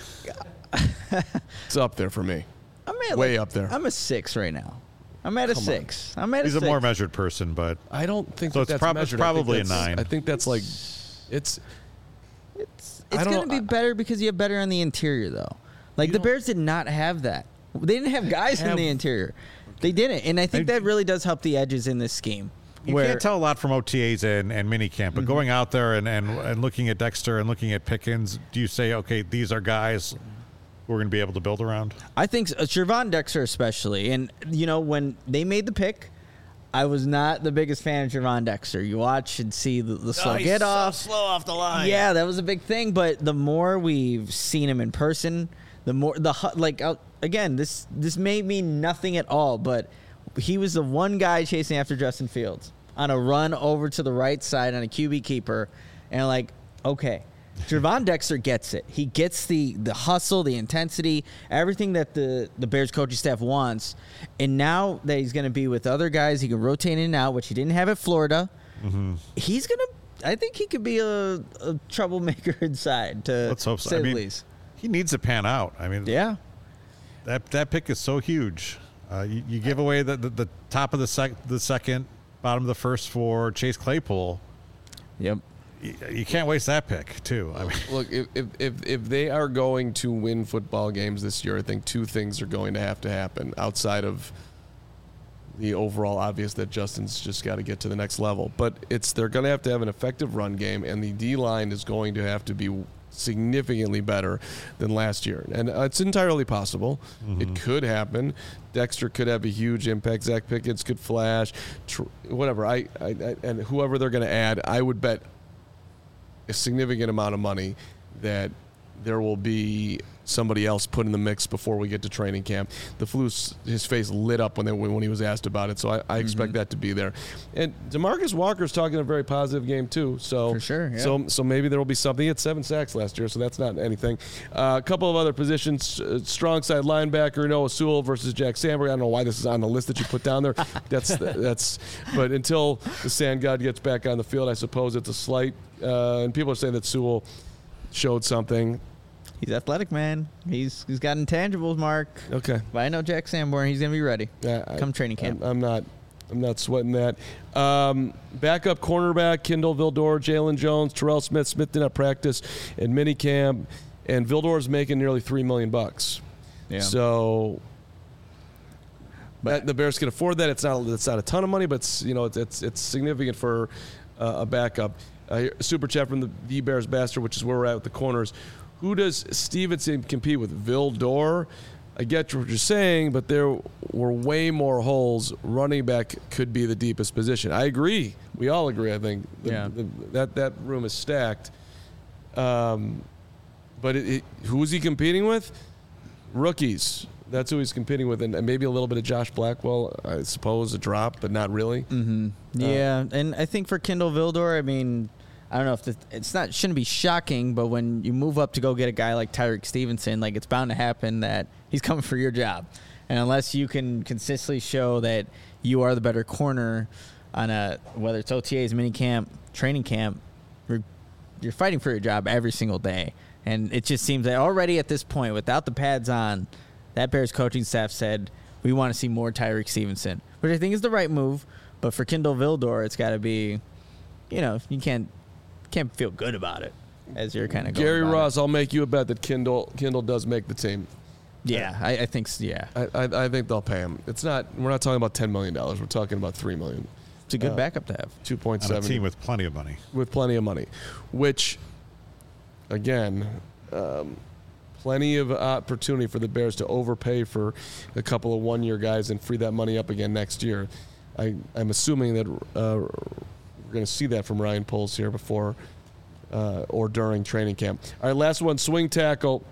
It's up there for me. Way up there. I'm a 6 right now. I'm at a 6. He's a more measured person, but I don't think so. That's It's probably a 9. I think that's it's going to be better because you have better on the interior, though. Like the Bears did not have that. They didn't have guys in the interior. They didn't, and I think that really does help the edges in this scheme. You can't tell a lot from OTAs and minicamp, but going out there and looking at Dexter and looking at Pickens, do you say, okay, these are guys we're going to be able to build around? I think Gervon Dexter especially. And, when they made the pick, I was not the biggest fan of Gervon Dexter. You watch and see the slow get off. So slow off the line. Yeah, that was a big thing. But the more we've seen him in person, the more again, this may mean nothing at all, but he was the one guy chasing after Justin Fields on a run over to the right side on a QB keeper. And okay, Gervon Dexter gets it. He gets the hustle, the intensity, everything that the Bears coaching staff wants. And now that he's going to be with other guys, he can rotate in and out, which he didn't have at Florida. Mm-hmm. He's going to, I think he could be a troublemaker inside, let's hope so. He needs to pan out. Yeah. That pick is so huge. You give away the top of the second, bottom of the first for Chase Claypool. Yep. You can't waste that pick, too. Look, if they are going to win football games this year, I think two things are going to have to happen outside of the overall obvious that Justin's just got to get to the next level. But they're going to have an effective run game, and the D-line is going to have to be significantly better than last year. And it's entirely possible. Mm-hmm. It could happen. Dexter could have a huge impact. Zach Pickens could flash. Whatever. And whoever they're going to add, I would bet a significant amount of money that there will be somebody else put in the mix before we get to training camp. His face lit up when he was asked about it, so I expect that to be there. And DeMarcus Walker's talking a very positive game too. So for sure, yeah. So maybe there will be something. He had 7 sacks last year, so that's not anything. A couple of other positions: strong side linebacker Noah Sewell versus Jack Sandberg. I don't know why this is on the list that you put down there. That's. But until the Sand God gets back on the field, I suppose it's a slight. And people are saying that Sewell showed something. He's athletic, man. He's got intangibles, Mark. Okay. But I know Jack Sanborn. He's going to be ready come training camp. I'm not sweating that. Backup cornerback, Kindle Vildor, Jalen Jones, Terrell Smith. Smith did not practice in minicamp. And Vildor's making nearly $3 million. Yeah. So But the Bears can afford that. It's not a ton of money, but it's significant for a backup. Super chat from the Bears Bastard, which is where we're at with the corners. Who does Stevenson compete with? Vildor? I get what you're saying, but there were way more holes. Running back could be the deepest position. I agree. We all agree, I think. That room is stacked. But who is he competing with? Rookies. That's who he's competing with. And maybe a little bit of Josh Blackwell, I suppose, a drop, but not really. Mm-hmm. Yeah, and I think for Kindle Vildor, I mean, I don't know if shouldn't be shocking, but when you move up to go get a guy like Tyreek Stevenson, like it's bound to happen that he's coming for your job. And unless you can consistently show that you are the better corner on whether it's OTAs, minicamp, training camp, you're fighting for your job every single day. And it just seems that already at this point, without the pads on, that Bears coaching staff said, we want to see more Tyreek Stevenson, which I think is the right move. But for Kindle Vildor, it's got to be, you can't feel good about it as you're kind of going Gary about Ross, I'll make you a bet that Kindle does make the team. Yeah, I think so, yeah. I think they'll pay him. We're not talking about $10 million. We're talking about $3 million. It's a good backup to have. 2.7. On a team with plenty of money. With plenty of money, which, again, plenty of opportunity for the Bears to overpay for a couple of one-year guys and free that money up again next year. I'm assuming that we're going to see that from Ryan Poles here before or during training camp. All right, last one, swing tackle.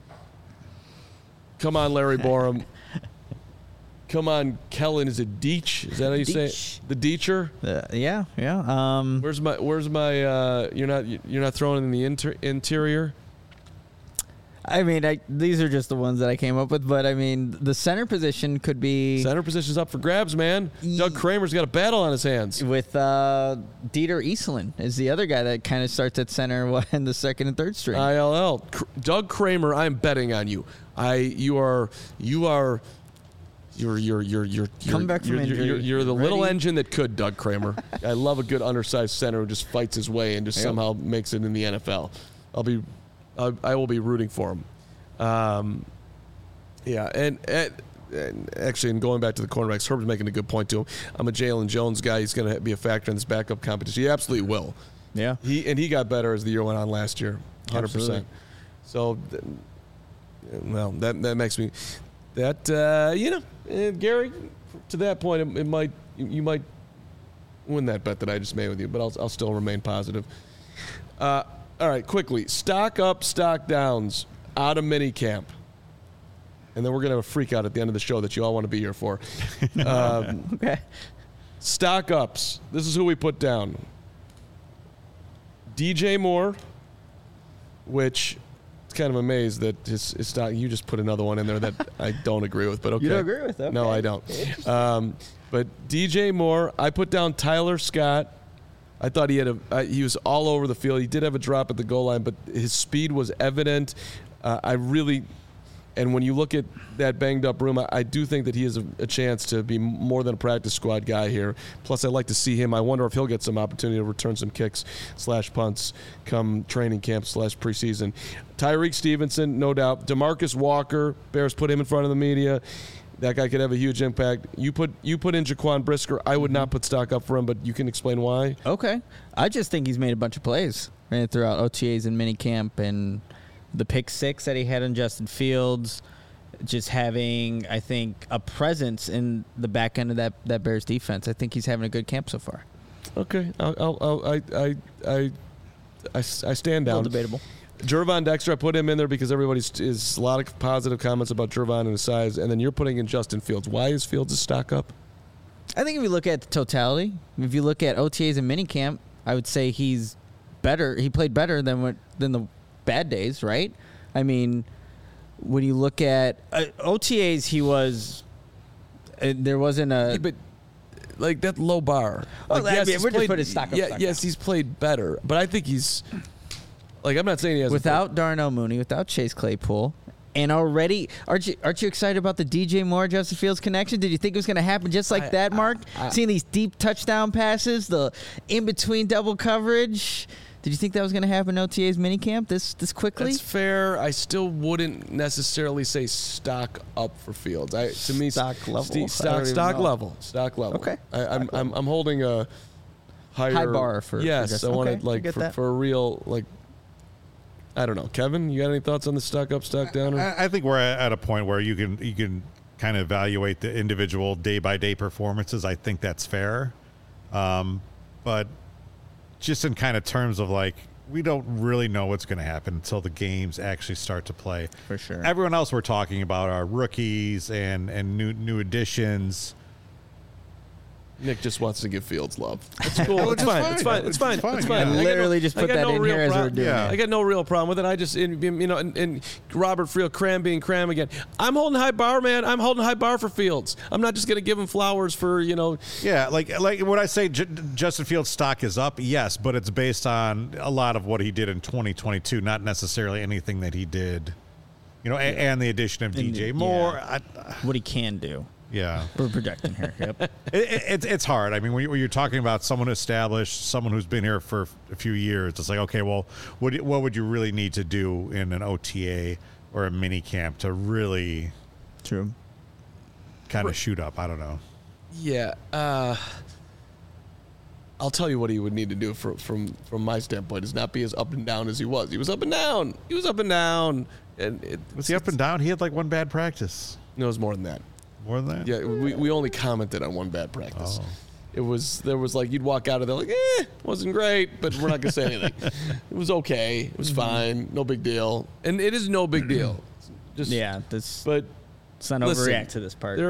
Come on, Larry Borum. Come on, Kellen. Is it Deech? Is that how you say it? The Deecher? Yeah. Where's my? You're not throwing in the interior. I mean, these are just the ones that I came up with, but I mean, the center position could be Center position's up for grabs, man. Doug Kramer's got a battle on his hands. with Dieter Easelin is the other guy that kind of starts at center in the second and third string. ILL. Doug Kramer, I'm betting on you. You're Coming back from injury. You're the little Ready? engine that could, Doug Kramer. I love a good undersized center who just fights his way and just somehow makes it in the NFL. I will be rooting for him. And actually, in going back to the cornerbacks, Herb's making a good point to him. I'm a Jalen Jones guy. He's going to be a factor in this backup competition. He absolutely will. Yeah. He got better as the year went on last year, 100%. Absolutely. So, well, that makes me Gary, to that point, you might win that bet that I just made with you, but I'll still remain positive. All right, quickly, stock up, stock downs out of minicamp. And then we're going to have a freak out at the end of the show that you all want to be here for. Okay. Stock ups. This is who we put down. DJ Moore, which it's kind of amazed that his stock. You just put another one in there that I don't agree with, but okay. You don't agree with? Okay. No, I don't. But DJ Moore, I put down Tyler Scott. I thought he was all over the field. He did have a drop at the goal line, but his speed was evident. And when you look at that banged up room, I do think that he has a chance to be more than a practice squad guy here. Plus, I'd like to see him. I wonder if he'll get some opportunity to return some kicks / punts come training camp / preseason. Tyreek Stevenson, no doubt. DeMarcus Walker, Bears put him in front of the media. That guy could have a huge impact. You put in Jaquan Brisker. I would not put stock up for him, but you can explain why. Okay. I just think he's made a bunch of plays throughout OTAs and minicamp, and the pick 6 that he had on Justin Fields, just having, I think, a presence in the back end of that Bears defense. I think he's having a good camp so far. Okay. I stand down. A little debatable. Gervon Dexter, I put him in there because is a lot of positive comments about Gervon and his size, and then you're putting in Justin Fields. Why is Fields a stock up? I think if you look at the totality, if you look at OTAs and minicamp, I would say he's better. He played better than the bad days, right? I mean, when you look at OTAs, he was. There wasn't a. Yeah, but like that low bar. Well, like, we're just putting stock up. Yes, he's played better, but I think he's. Like, I'm not saying he has without Darnell Mooney, without Chase Claypool, and already aren't you excited about the DJ Moore Justin Fields connection? Did you think it was going to happen just like that, Mark? Seeing these deep touchdown passes, the in between double coverage. Did you think that was going to happen in OTA's minicamp this quickly? That's fair. I still wouldn't necessarily say stock up for Fields. To me, Stock level. Stock level. Okay. I'm holding a high bar for yes. Justin. I Okay, wanted I like get that. for a real like. I don't know, Kevin. You got any thoughts on the stock up, stock down? I think we're at a point where you can kind of evaluate the individual day by day performances. I think that's fair, but just in kind of terms of like we don't really know what's going to happen until the games actually start to play. For sure. Everyone else we're talking about are rookies and new additions. Nick just wants to give Fields love. It's cool. Which It's is fine. fine. It's fine. It's fine. It's fine. It's fine. Yeah. I got Literally just I put got that in real here as we're prob- doing Yeah. it. I got no real problem with it. I just, and Robert Friel, Cram being Cram again. I'm holding high bar, man. I'm holding high bar for Fields. I'm not just going to give him flowers for, Yeah, like when I say Justin Fields' stock is up, yes, but it's based on a lot of what he did in 2022, not necessarily anything that he did, and the addition of DJ Moore. What he can do. Yeah, We're projecting here. Yep. it's hard. I mean, when you're talking about someone established, someone who's been here for a few years, it's like, okay, well, what would you really need to do in an OTA or a mini camp to really True. kind of shoot up? I don't know. Yeah. I'll tell you what he would need to do from my standpoint is not be as up and down as he was. He was up and down. And Was he up and down? He had like one bad practice. No, it was more than that. More than that? Yeah, we only commented on one bad practice. Oh. There was like you'd walk out of there like, wasn't great, but we're not gonna say anything. It was okay. It was fine. No big deal. And it is no big deal. Just Yeah. But Let's not listen, overreact to this part.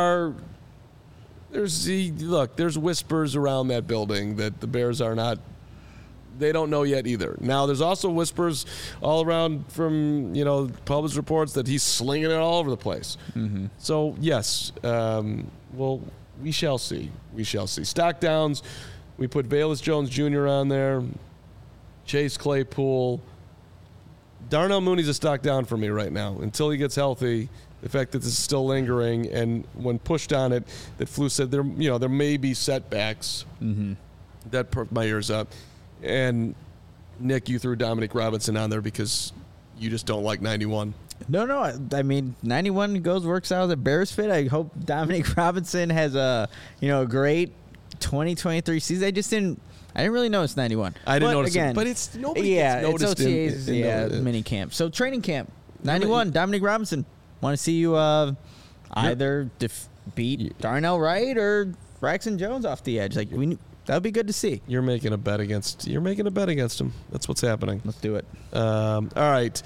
There's whispers around that building that the Bears are not. They don't know yet either. Now, there's also whispers all around from, published reports that he's slinging it all over the place. Mm-hmm. So, yes, we shall see. We shall see. Stock downs, we put Velus Jones Jr. on there, Chase Claypool. Darnell Mooney's a stock down for me right now. Until he gets healthy, the fact that this is still lingering, and when pushed on it, that Flu said there may be setbacks. Mm-hmm. That perked my ears up. And Nick, you threw Dominic Robinson on there because you just don't like 91. No. I mean, 91 works out as a Bears fit. I hope Dominic Robinson has a great 2023 season. I didn't really notice 91. I didn't But notice again, it, but it's nobody yeah, gets noticed it's OTAs, mini camp. So training camp, 91. Dominic Robinson. Want to see you either beat Darnell Wright or Braxton Jones off the edge. Like that would be good to see. You're making a bet against him. That's what's happening. Let's do it. All right.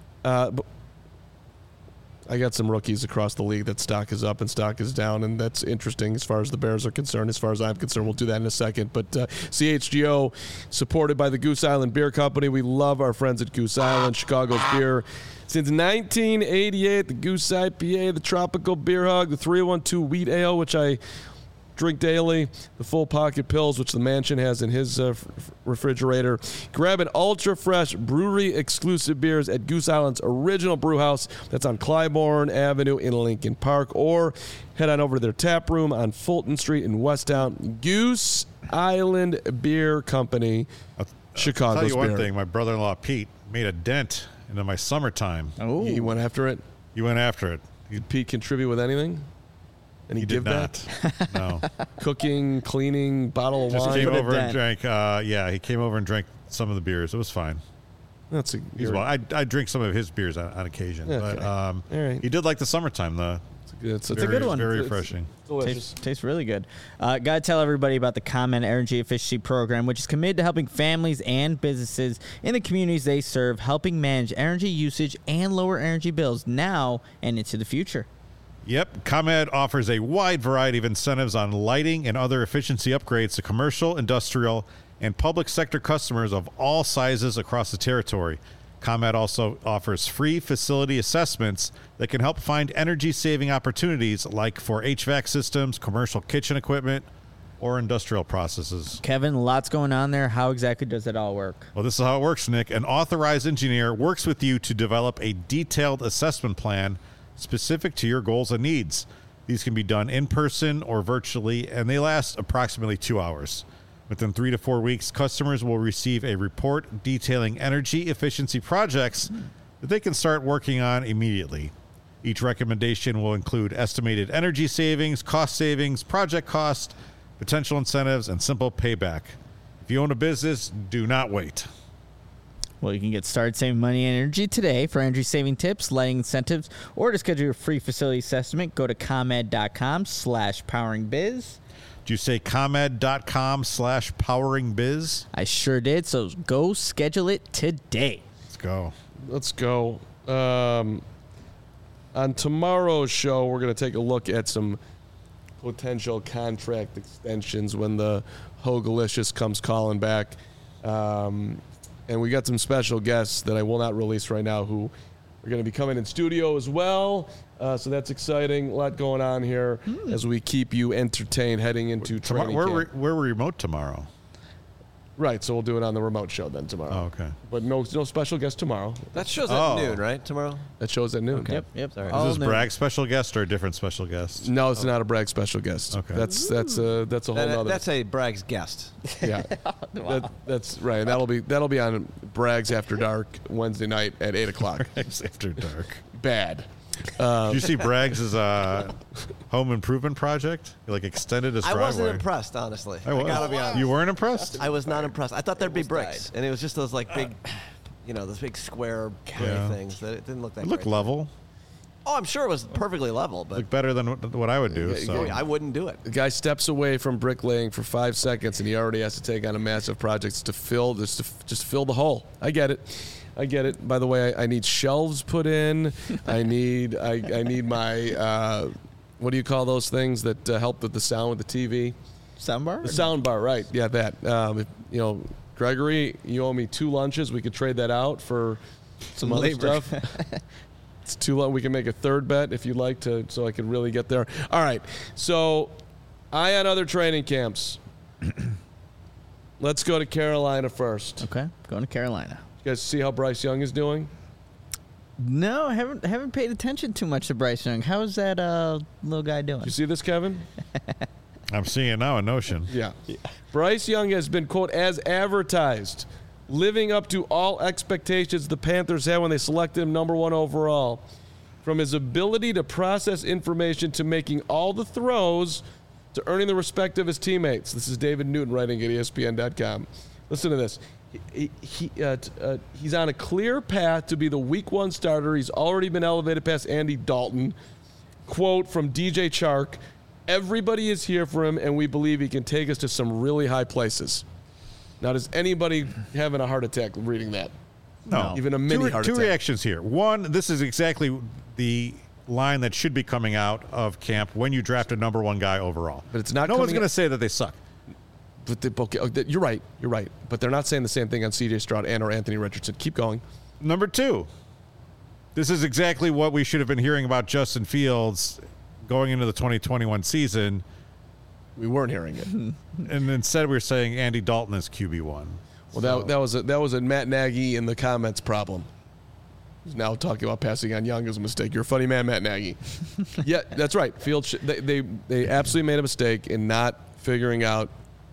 I got some rookies across the league that stock is up and stock is down, and that's interesting as far as the Bears are concerned. As far as I'm concerned, we'll do that in a second. But CHGO, supported by the Goose Island Beer Company. We love our friends at Goose Island, Chicago's beer. Since 1988, the Goose IPA, the Tropical Beer Hug, the 312 Wheat Ale, which I drink daily, the Full Pocket Pills, which the Mansion has in his refrigerator. Grab an ultra-fresh brewery-exclusive beers at Goose Island's original brew house. That's on Clybourne Avenue in Lincoln Park. Or head on over to their tap room on Fulton Street in Westtown. Goose Island Beer Company, Chicago's I'll tell you one beer. thing. My brother-in-law, Pete, made a dent into my summertime. Oh, He went after it. He went after it. Did Pete contribute with anything? And He give did not. No. Cooking, cleaning, bottle of Just wine. came Put a over and dent. drank. He came over and drank some of the beers. It was fine. That's He's well. I drink some of his beers on occasion, Okay. but All right. he did like the summertime though. It's a good one. Very It's refreshing. delicious. Tastes really good. Got to tell everybody about the ComEd Energy Efficiency Program, which is committed to helping families and businesses in the communities they serve, helping manage energy usage and lower energy bills now and into the future. Yep, ComEd offers a wide variety of incentives on lighting and other efficiency upgrades to commercial, industrial, and public sector customers of all sizes across the territory. ComEd also offers free facility assessments that can help find energy-saving opportunities like for HVAC systems, commercial kitchen equipment, or industrial processes. Kevin, lots going on there. How exactly does it all work? Well, this is how it works, Nick. An authorized engineer works with you to develop a detailed assessment plan specific to your goals and needs. These can be done in person or virtually, and they last approximately 2 hours. Within 3 to 4 weeks, customers will receive a report detailing energy efficiency projects that they can start working on immediately. Each recommendation will include estimated energy savings, cost savings, project cost, potential incentives, and simple payback. If you own a business, do not wait. Well, you can get started saving money and energy today. For energy saving tips, lighting incentives, or to schedule your free facility assessment, go to ComEd.com/poweringbiz. Did you say ComEd.com/poweringbiz? I sure did. So go schedule it today. Let's go. Let's go. On tomorrow's show, we're going to take a look at some potential contract extensions when the Hogalicious comes calling back. And we got some special guests that I will not release right now who are going to be coming in studio as well. So that's exciting. A lot going on here as we keep you entertained heading into training camp. We're remote tomorrow. Right, so we'll do it on the remote show then tomorrow. Oh, okay. But no special guest tomorrow. That show's at noon, right? Tomorrow? That show's at noon. Yep. Sorry. All Is this new. Bragg's special guest or a different special guest? No, it's not a Bragg special guest. Okay. That's a whole nother. That's a Bragg's guest. Yeah. That's right. And that'll be on Bragg's After Dark Wednesday night at 8:00. After dark. Bad. Did you see Bragg's home improvement project? He extended his driveway. I wasn't impressed, honestly. I was. gotta be honest. You weren't impressed? I was not impressed. I thought there'd be bricks, and it was just those big, those big square gray things that it didn't look that It looked great. level. Oh, I'm sure it was perfectly level, but Looked better than what I would do. So. I wouldn't do it. The guy steps away from bricklaying for 5 seconds, and he already has to take on a massive project to fill just fill the hole. I get it. By the way, I need shelves put in. I need my what do you call those things that help with the sound with the TV? Soundbar? The sound bar, right? Yeah, that. Gregory, you owe me 2 lunches. We could trade that out for some other labor. stuff. It's too long. We can make a third bet if you'd like to, so I can really get there. All right. So, eye on other training camps. Let's go to Carolina first. Okay, going to Carolina. You guys see how Bryce Young is doing? No, I haven't paid attention too much to Bryce Young. How is that little guy doing? You see this, Kevin? I'm seeing it now in Notion. Yeah. Bryce Young has been, quote, as advertised, living up to all expectations the Panthers had when they selected him number 1 overall. From his ability to process information to making all the throws to earning the respect of his teammates. This is David Newton writing at ESPN.com. Listen to this. He's on a clear path to be the week 1 starter. He's already been elevated past Andy Dalton. Quote from DJ Chark, everybody is here for him, and we believe he can take us to some really high places. Now, does anybody having a heart attack reading that? No. Even a mini heart attack. Two reactions here. One, this is exactly the line that should be coming out of camp when you draft a number 1 guy overall. But it's not No one's coming going to say that they suck. But you're right. But they're not saying the same thing on C.J. Stroud and or Anthony Richardson. Keep going. Number 2, this is exactly what we should have been hearing about Justin Fields going into the 2021 season. We weren't hearing it. And instead we're saying Andy Dalton is QB1. Well, that was a Matt Nagy in the comments problem. He's now talking about passing on Young as a mistake. You're a funny man, Matt Nagy. Yeah, that's right. Fields, they absolutely made a mistake in not figuring out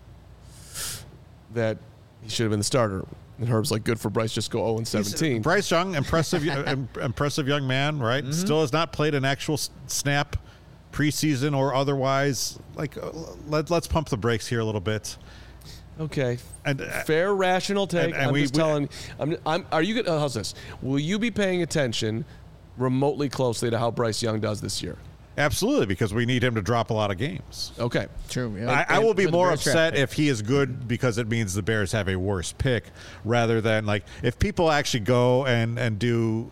that he should have been the starter. And Herb's like, good for Bryce, just go 0-17. Bryce Young, impressive young man, right? Mm-hmm. Still has not played an actual snap preseason or otherwise. Let's pump the brakes here a little bit. Okay, and fair, rational take. And are you good? How's this? Will you be paying attention remotely closely to how Bryce Young does this year? Absolutely, because we need him to drop a lot of games. Okay, true. Yeah. I will be more upset if he is good because it means the Bears have a worse pick, rather than if people actually go and do,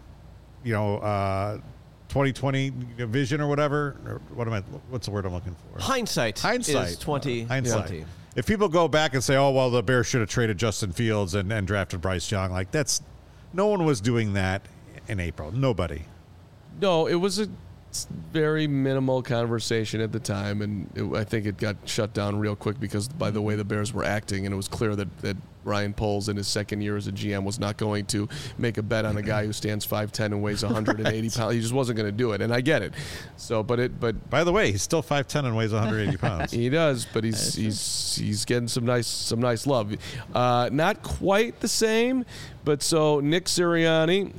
2020 vision or whatever. Or what's the word I'm looking for? Hindsight. Is 2020. Hindsight. If people go back and say, "Oh well, the Bears should have traded Justin Fields and drafted Bryce Young," no one was doing that in April. Nobody. No, it was very minimal conversation at the time, and I think it got shut down real quick because by the way the Bears were acting, and it was clear that Ryan Poles in his second year as a GM was not going to make a bet on a guy who stands 5'10" and weighs 180 pounds. He just wasn't going to do it, and I get it. So, but by the way, he's still 5'10" and weighs 180 pounds. He does, but he's getting some nice love. Not quite the same, but so Nick Sirianni.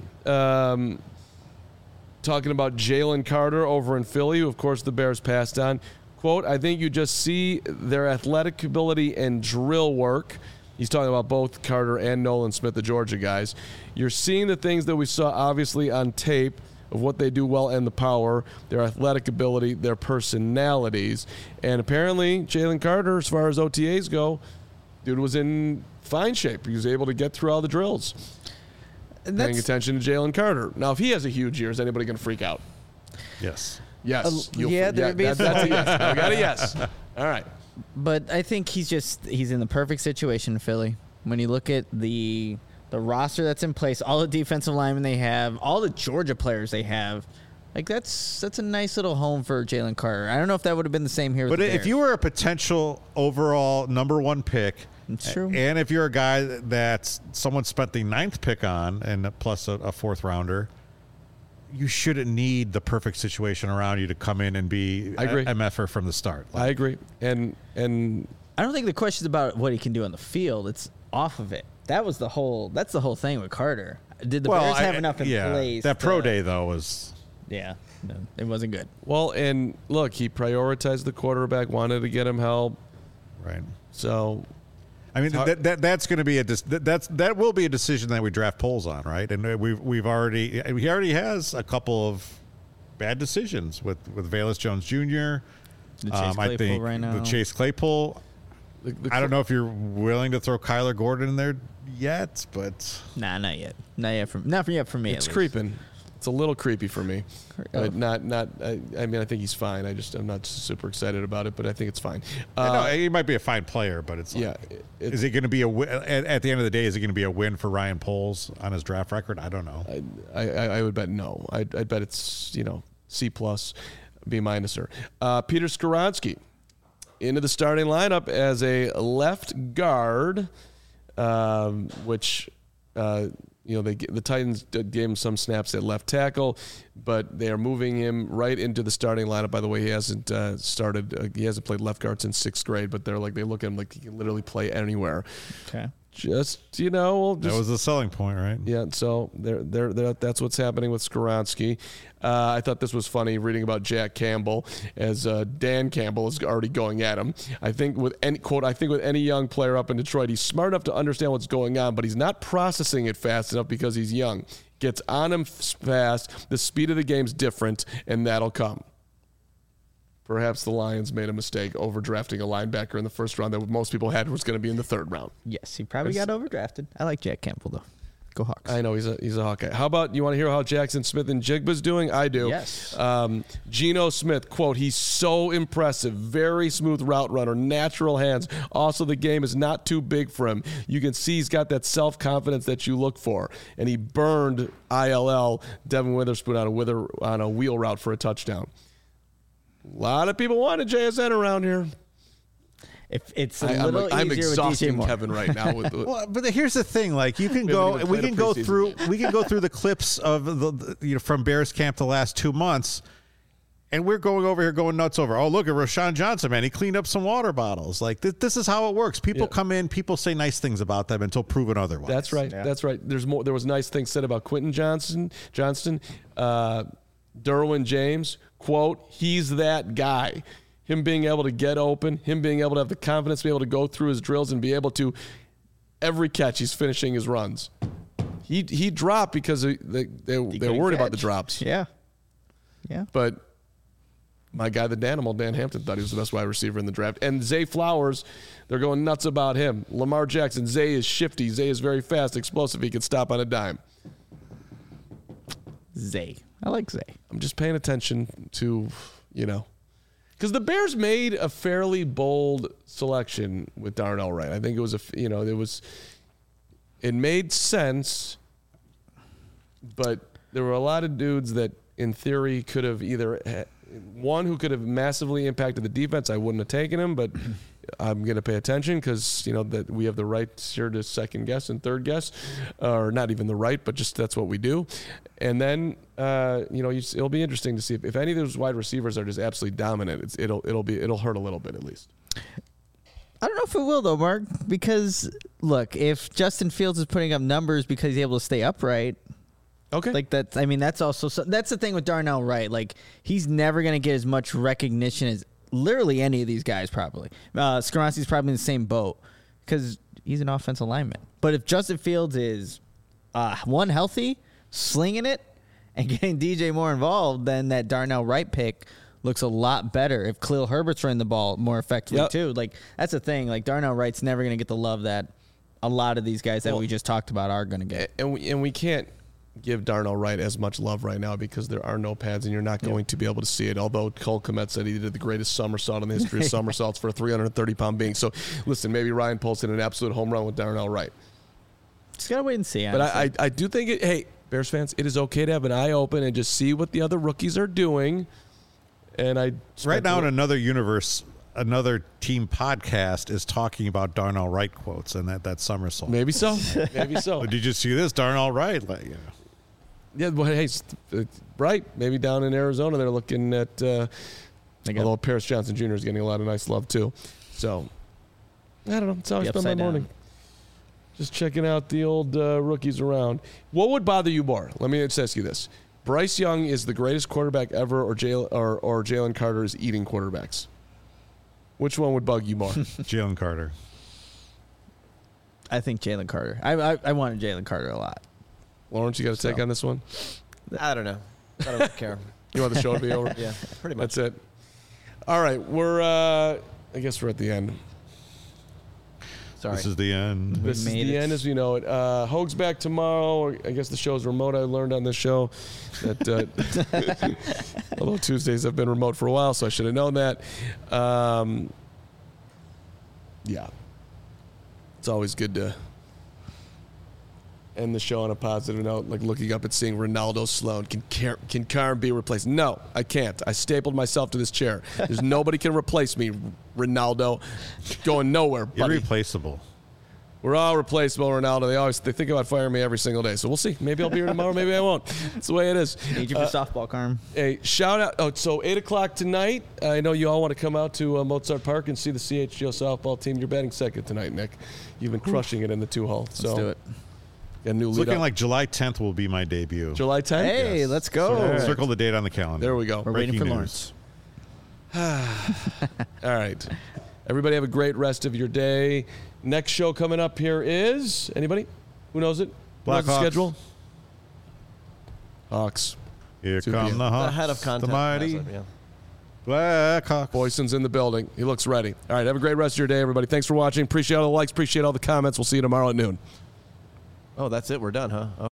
Talking about Jalen Carter over in Philly, who, of course, the Bears passed on. Quote, I think you just see their athletic ability and drill work. He's talking about both Carter and Nolan Smith, the Georgia guys. You're seeing the things that we saw, obviously, on tape of what they do well and the power, their athletic ability, their personalities. And apparently, Jalen Carter, as far as OTAs go, dude was in fine shape. He was able to get through all the drills. Paying attention to Jalen Carter. Now, if he has a huge year, is anybody going to freak out? Yes. Yes. There'd be that's a yes. I got a yes. All right. But I think he's in the perfect situation in Philly. When you look at the roster that's in place, all the defensive linemen they have, all the Georgia players they have, like that's a nice little home for Jalen Carter. I don't know if that would have been the same here with the Bears. If you were a potential overall number 1 pick, it's true. And if you're a guy that someone spent the 9th pick on, and plus a 4th rounder, you shouldn't need the perfect situation around you to come in and be MFer from the start. I agree. And I don't think the question's about what he can do on the field. It's off of it. That's the whole thing with Carter. Did the Bears have enough in place? That pro day, though, was... Yeah, no, it wasn't good. Well, and look, he prioritized the quarterback, wanted to get him help. Right. So... I mean, that's going to be that will be a decision that we draft polls on, right? And he already has a couple of bad decisions with Velus Jones Jr. I think right now. The Chase Claypool. I don't know if you're willing to throw Kyler Gordon in there yet, but not yet. Not yet for me. It's creeping. It's a little creepy for me. But not. I mean, I think he's fine. I'm not super excited about it, but I think it's fine. He might be a fine player, but it's like, is it going to be at the end of the day? Is it going to be a win for Ryan Poles on his draft record? I don't know. I would bet no. I'd bet it's C+, B-. Peter Skoronski into the starting lineup as a left guard, which. The Titans gave him some snaps at left tackle, but they are moving him right into the starting lineup. By the way, he hasn't he hasn't played left guard since 6th grade, but they look at him like he can literally play anywhere. Okay. That was the selling point, right? Yeah, so that's what's happening with Skoronski. I thought this was funny reading about Jack Campbell, as Dan Campbell is already going at him. I think with any young player up in Detroit, he's smart enough to understand what's going on, but he's not processing it fast enough because he's young. Gets on him fast. The speed of the game's different, and that'll come. Perhaps the Lions made a mistake overdrafting a linebacker in the first round that most people had was going to be in the 3rd round. Yes, he probably got overdrafted. I like Jack Campbell, though. Go Hawks. I know, he's a Hawkeye. How about, you want to hear how Jackson Smith and Jigba's doing? I do. Yes. Geno Smith, quote, he's so impressive. Very smooth route runner, natural hands. Also, the game is not too big for him. You can see he's got that self-confidence that you look for. And he burned ILL, Devin Witherspoon, on a wheel route for a touchdown. A lot of people wanted JSN around here. If it's I'm exhausting Kevin right now. Well, but here's the thing: like we can go through the clips of the from Bears camp the last 2 months, and we're going over here going nuts over. Oh, look at Rashawn Johnson, man! He cleaned up some water bottles. Like this is how it works. People come in, people say nice things about them until proven otherwise. That's right. Yeah. That's right. There's more. There was nice things said about Quentin Johnston, Derwin James. Quote, he's that guy. Him being able to get open, him being able to have the confidence to be able to go through his drills and be able to, every catch, he's finishing his runs. He dropped because they're worried about the drops. Yeah. But my guy, Dan Hampton, thought he was the best wide receiver in the draft. And Zay Flowers, they're going nuts about him. Lamar Jackson, Zay is shifty. Zay is very fast, explosive. He can stop on a dime. Zay. I like Zay. I'm just paying attention to, because the Bears made a fairly bold selection with Darnell Wright. I think it was it made sense, but there were a lot of dudes that in theory, could have either one who could have massively impacted the defense. I wouldn't have taken him, but I'm going to pay attention because, that we have the right here to second guess and third guess, or not even the right, but just that's what we do. And then, it'll be interesting to see if any of those wide receivers are just absolutely dominant. It'll hurt a little bit at least. I don't know if it will though, Mark, because look, if Justin Fields is putting up numbers because he's able to stay upright. Okay. Like that's the thing with Darnell Wright. Like he's never going to get as much recognition as literally any of these guys probably. Skoronski's probably in the same boat because he's an offensive lineman. But if Justin Fields is healthy, slinging it, and getting DJ Moore involved, then that Darnell Wright pick looks a lot better if Khalil Herbert's running the ball more effectively too. Like that's the thing. Like Darnell Wright's never going to get the love that a lot of these guys that we just talked about are going to get. And we can't give Darnell Wright as much love right now because there are no pads and you're not going to be able to see it. Although Cole Kmet said he did the greatest somersault in the history of somersaults for a 330-pound being. So listen, maybe Ryan Poles hit an absolute home run with Darnell Wright. Just got to wait and see. Honestly. But I do think hey, Bears fans, it is okay to have an eye open and just see what the other rookies are doing. And right now in another universe, another team podcast is talking about Darnell Wright quotes and that somersault. Maybe so. Maybe so. Did you see this? Darnell Wright. Yeah, but hey, right. Maybe down in Arizona, they're looking at, although Paris Johnson Jr. is getting a lot of nice love too. So, I don't know. It's how I spend my morning. Just checking out the old rookies around. What would bother you more? Let me just ask you this. Bryce Young is the greatest quarterback ever, or Jalen Carter is eating quarterbacks? Which one would bug you more? Jalen Carter. I think Jalen Carter. I wanted Jalen Carter a lot. Lawrence, you got a take on this one? I don't know. I don't care. You want the show to be over? Yeah, pretty much. That's it. All right, I guess we're at the end. Sorry. This is the end. This is the end as we know it. Hoag's back tomorrow. I guess the show's remote. I learned on this show that although Tuesdays have been remote for a while, so I should have known that. Yeah. It's always good to end the show on a positive note, like looking up and seeing Ronaldo Sloan. Can Karen be replaced? No, I can't. I stapled myself to this chair. There's nobody can replace me, Ronaldo. Going nowhere, buddy. Irreplaceable. We're all replaceable, Ronaldo. They think about firing me every single day. So we'll see. Maybe I'll be here tomorrow. Maybe I won't. That's the way it is. Need you for softball, Carm. Hey, shout out. Oh, so 8 o'clock tonight. I know you all want to come out to Mozart Park and see the CHGO softball team. You're batting second tonight, Nick. You've been crushing it in the 2-hole. So let's do it. Got a new It's lead looking up. like July 10th will be my debut. July 10th? Hey, Yes. let's go. Circle the date on the calendar. There we go. We're waiting for Breaking Lawrence. All right. Everybody have a great rest of your day. Next show coming up here is anybody? Who knows it? Who knows the Blackhawks. schedule? Hawks. Here 2 come p.m. the Hawks. The head of content. The mighty has it, yeah. Blackhawks. Boyson's in the building. He looks ready. All right. Have a great rest of your day, everybody. Thanks for watching. Appreciate all the likes. Appreciate all the comments. We'll see you tomorrow at noon. Oh, that's it. We're done, huh?